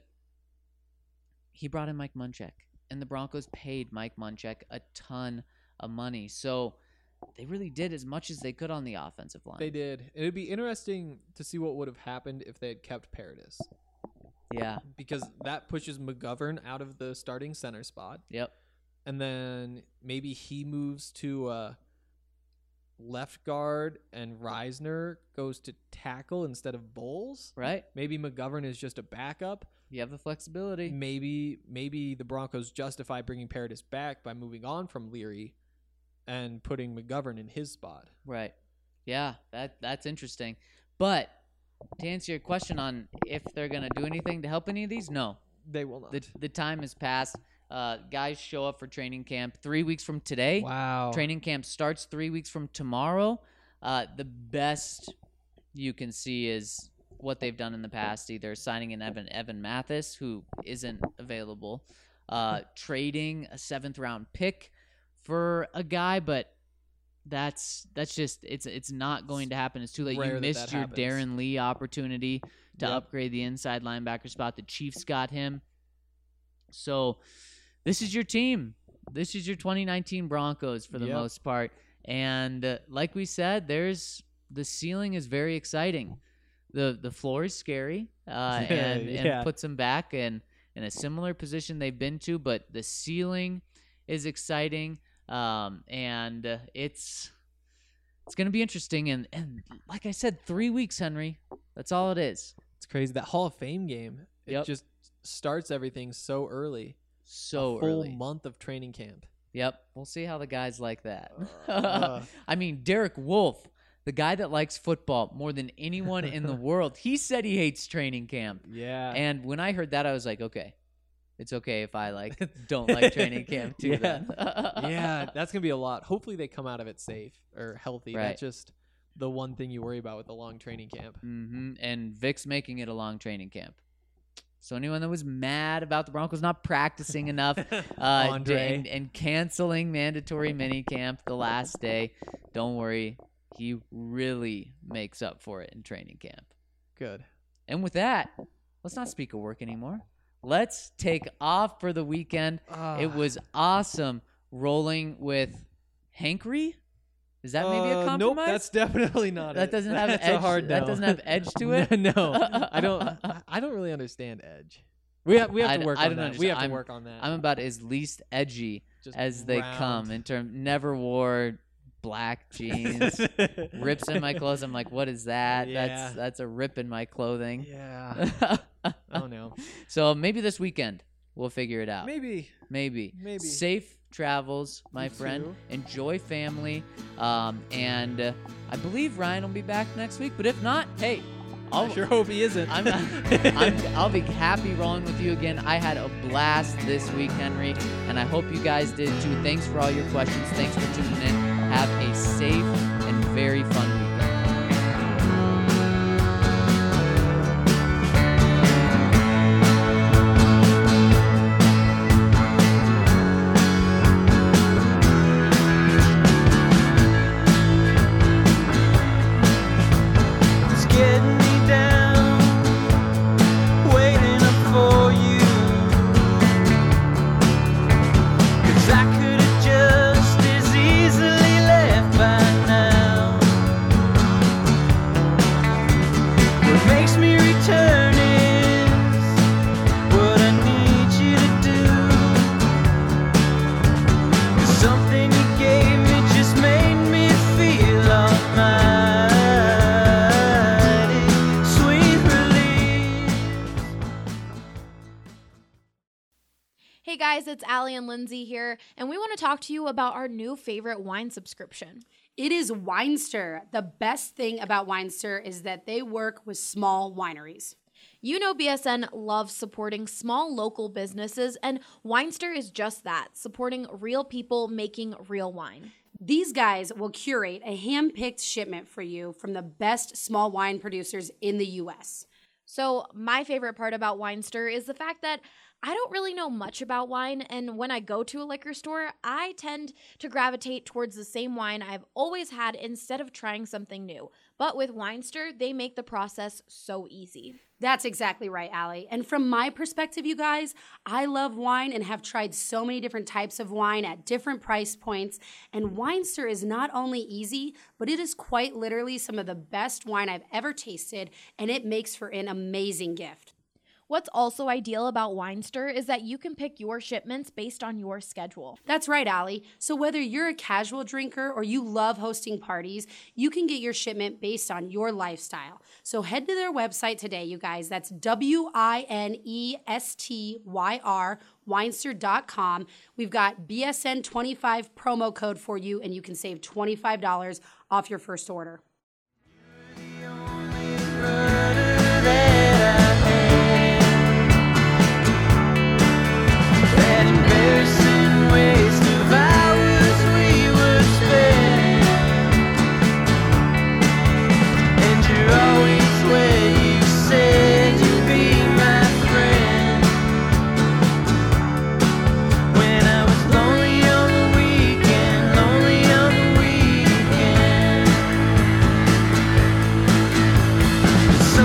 he brought in Mike Munchak, and the Broncos paid Mike Munchak a ton of money. So they really did as much as they could on the offensive line. They did. It would be interesting to see what would have happened if they had kept Paradis. Yeah. Because that pushes McGovern out of the starting center spot. Yep. And then maybe he moves to left guard and Reisner goes to tackle instead of Bowles. Right. Maybe McGovern is just a backup. You have the flexibility. Maybe the Broncos justify bringing Paradis back by moving on from Leary and putting McGovern in his spot. Right. Yeah, that's interesting. But to answer your question on if they're going to do anything to help any of these, no. They will not. The time has passed. Guys show up for training camp 3 weeks from today. Wow. Training camp starts 3 weeks from tomorrow. The best you can see is what they've done in the past, either signing an Evan Mathis, who isn't available, trading a 7th-round pick for a guy, but that's just it's not going to happen. It's too late. Rare You missed your happens. Darren Lee opportunity to Yep. upgrade the inside linebacker spot. The Chiefs got him. So this is your team. This is your 2019 Broncos for the Yep. most part. And like we said, the ceiling is very exciting. The floor is scary and Yeah. puts them back in a similar position they've been to, but the ceiling is exciting. And it's going to be interesting. And like I said, 3 weeks, Henry. That's all it is. It's crazy. That Hall of Fame game, it Yep. just starts everything so early. So a full early. month of training camp. Yep. We'll see how the guys like that. Uh. I mean, Derek Wolf, the guy that likes football more than anyone in the world, he said he hates training camp. Yeah. And when I heard that, I was like, okay, it's okay if I don't like training camp too. Yeah. Then. Yeah, that's going to be a lot. Hopefully they come out of it safe or healthy. Right. That's just the one thing you worry about with a long training camp. And Vic's making it a long training camp. So anyone that was mad about the Broncos not practicing enough Andre. and canceling mandatory minicamp the last day, don't worry. He really makes up for it in training camp. Good. And with that, let's not speak of work anymore. Let's take off for the weekend. It was awesome rolling with Hankery. Is that maybe a compromise? Nope, that's definitely not That it. doesn't have That's edge. a hard That no. doesn't have edge to it. No, I don't really understand edge. We have to work on that. We have to work on that. I'm about as least edgy Just as they round. come in terms. Never wore black jeans, rips in my clothes. I'm like, what is that? Yeah. That's a rip in my clothing. Yeah. Oh no. So maybe this weekend we'll figure it out. Maybe. Maybe. Maybe. Safe travels, my You friend. too. Enjoy family. And I believe Ryan will be back next week. But if not, hey, I sure hope he isn't. I'll be happy rolling with you again. I had a blast this week, Henry, and I hope you guys did too. Thanks for all your questions. Thanks for tuning in. Have a safe and very fun weekend. It's getting me down, waiting up for you. 'Cause I could have just as easily left by now. What makes me return is what I need you to do. 'Cause something you gave me just made me feel almighty. Sweet relief. Hey guys, it's Allie and Lindsay here, and we want to talk to you about our new favorite wine subscription. It is Winester. The best thing about Winester is that they work with small wineries. You know BSN loves supporting small local businesses, and Winester is just that, supporting real people making real wine. These guys will curate a hand-picked shipment for you from the best small wine producers in the U.S. So my favorite part about Winester is the fact that I don't really know much about wine, and when I go to a liquor store, I tend to gravitate towards the same wine I've always had instead of trying something new. But with Winester, they make the process so easy. That's exactly right, Allie. And from my perspective, you guys, I love wine and have tried so many different types of wine at different price points. And Winester is not only easy, but it is quite literally some of the best wine I've ever tasted, and it makes for an amazing gift. What's also ideal about Winester is that you can pick your shipments based on your schedule. That's right, Allie. So whether you're a casual drinker or you love hosting parties, you can get your shipment based on your lifestyle. So head to their website today, you guys. That's WINESTYR, Winester.com. We've got BSN25 promo code for you, and you can save $25 off your first order. That embarrassing waste of hours we would spend, and you're always where you said you'd be my friend. When I was lonely on the weekend, lonely on the weekend.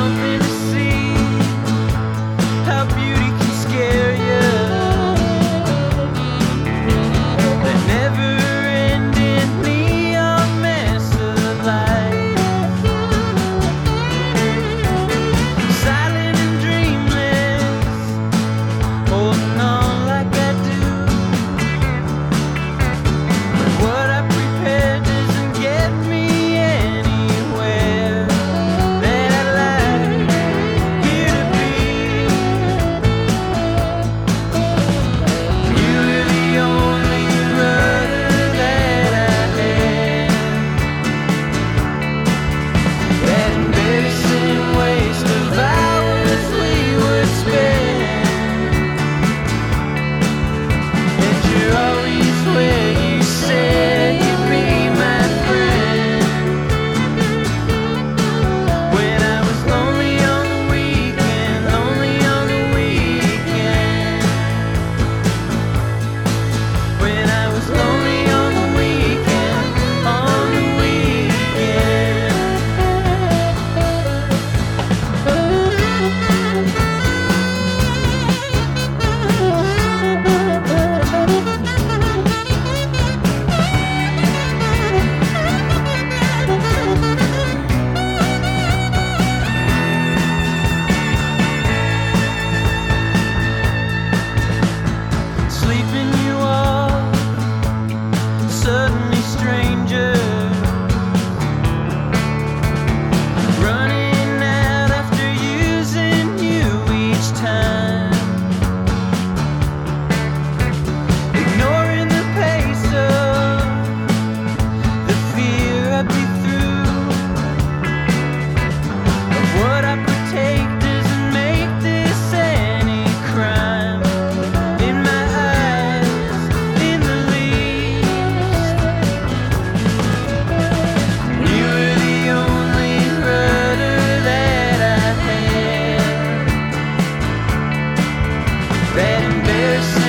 sleeping you off, suddenly stranger, running out after using you each time, ignoring the pace of the fear I'd be through, of what I partake doesn't make this any crime in my eyes in the least. You were the only rudder that I had, that embarrassing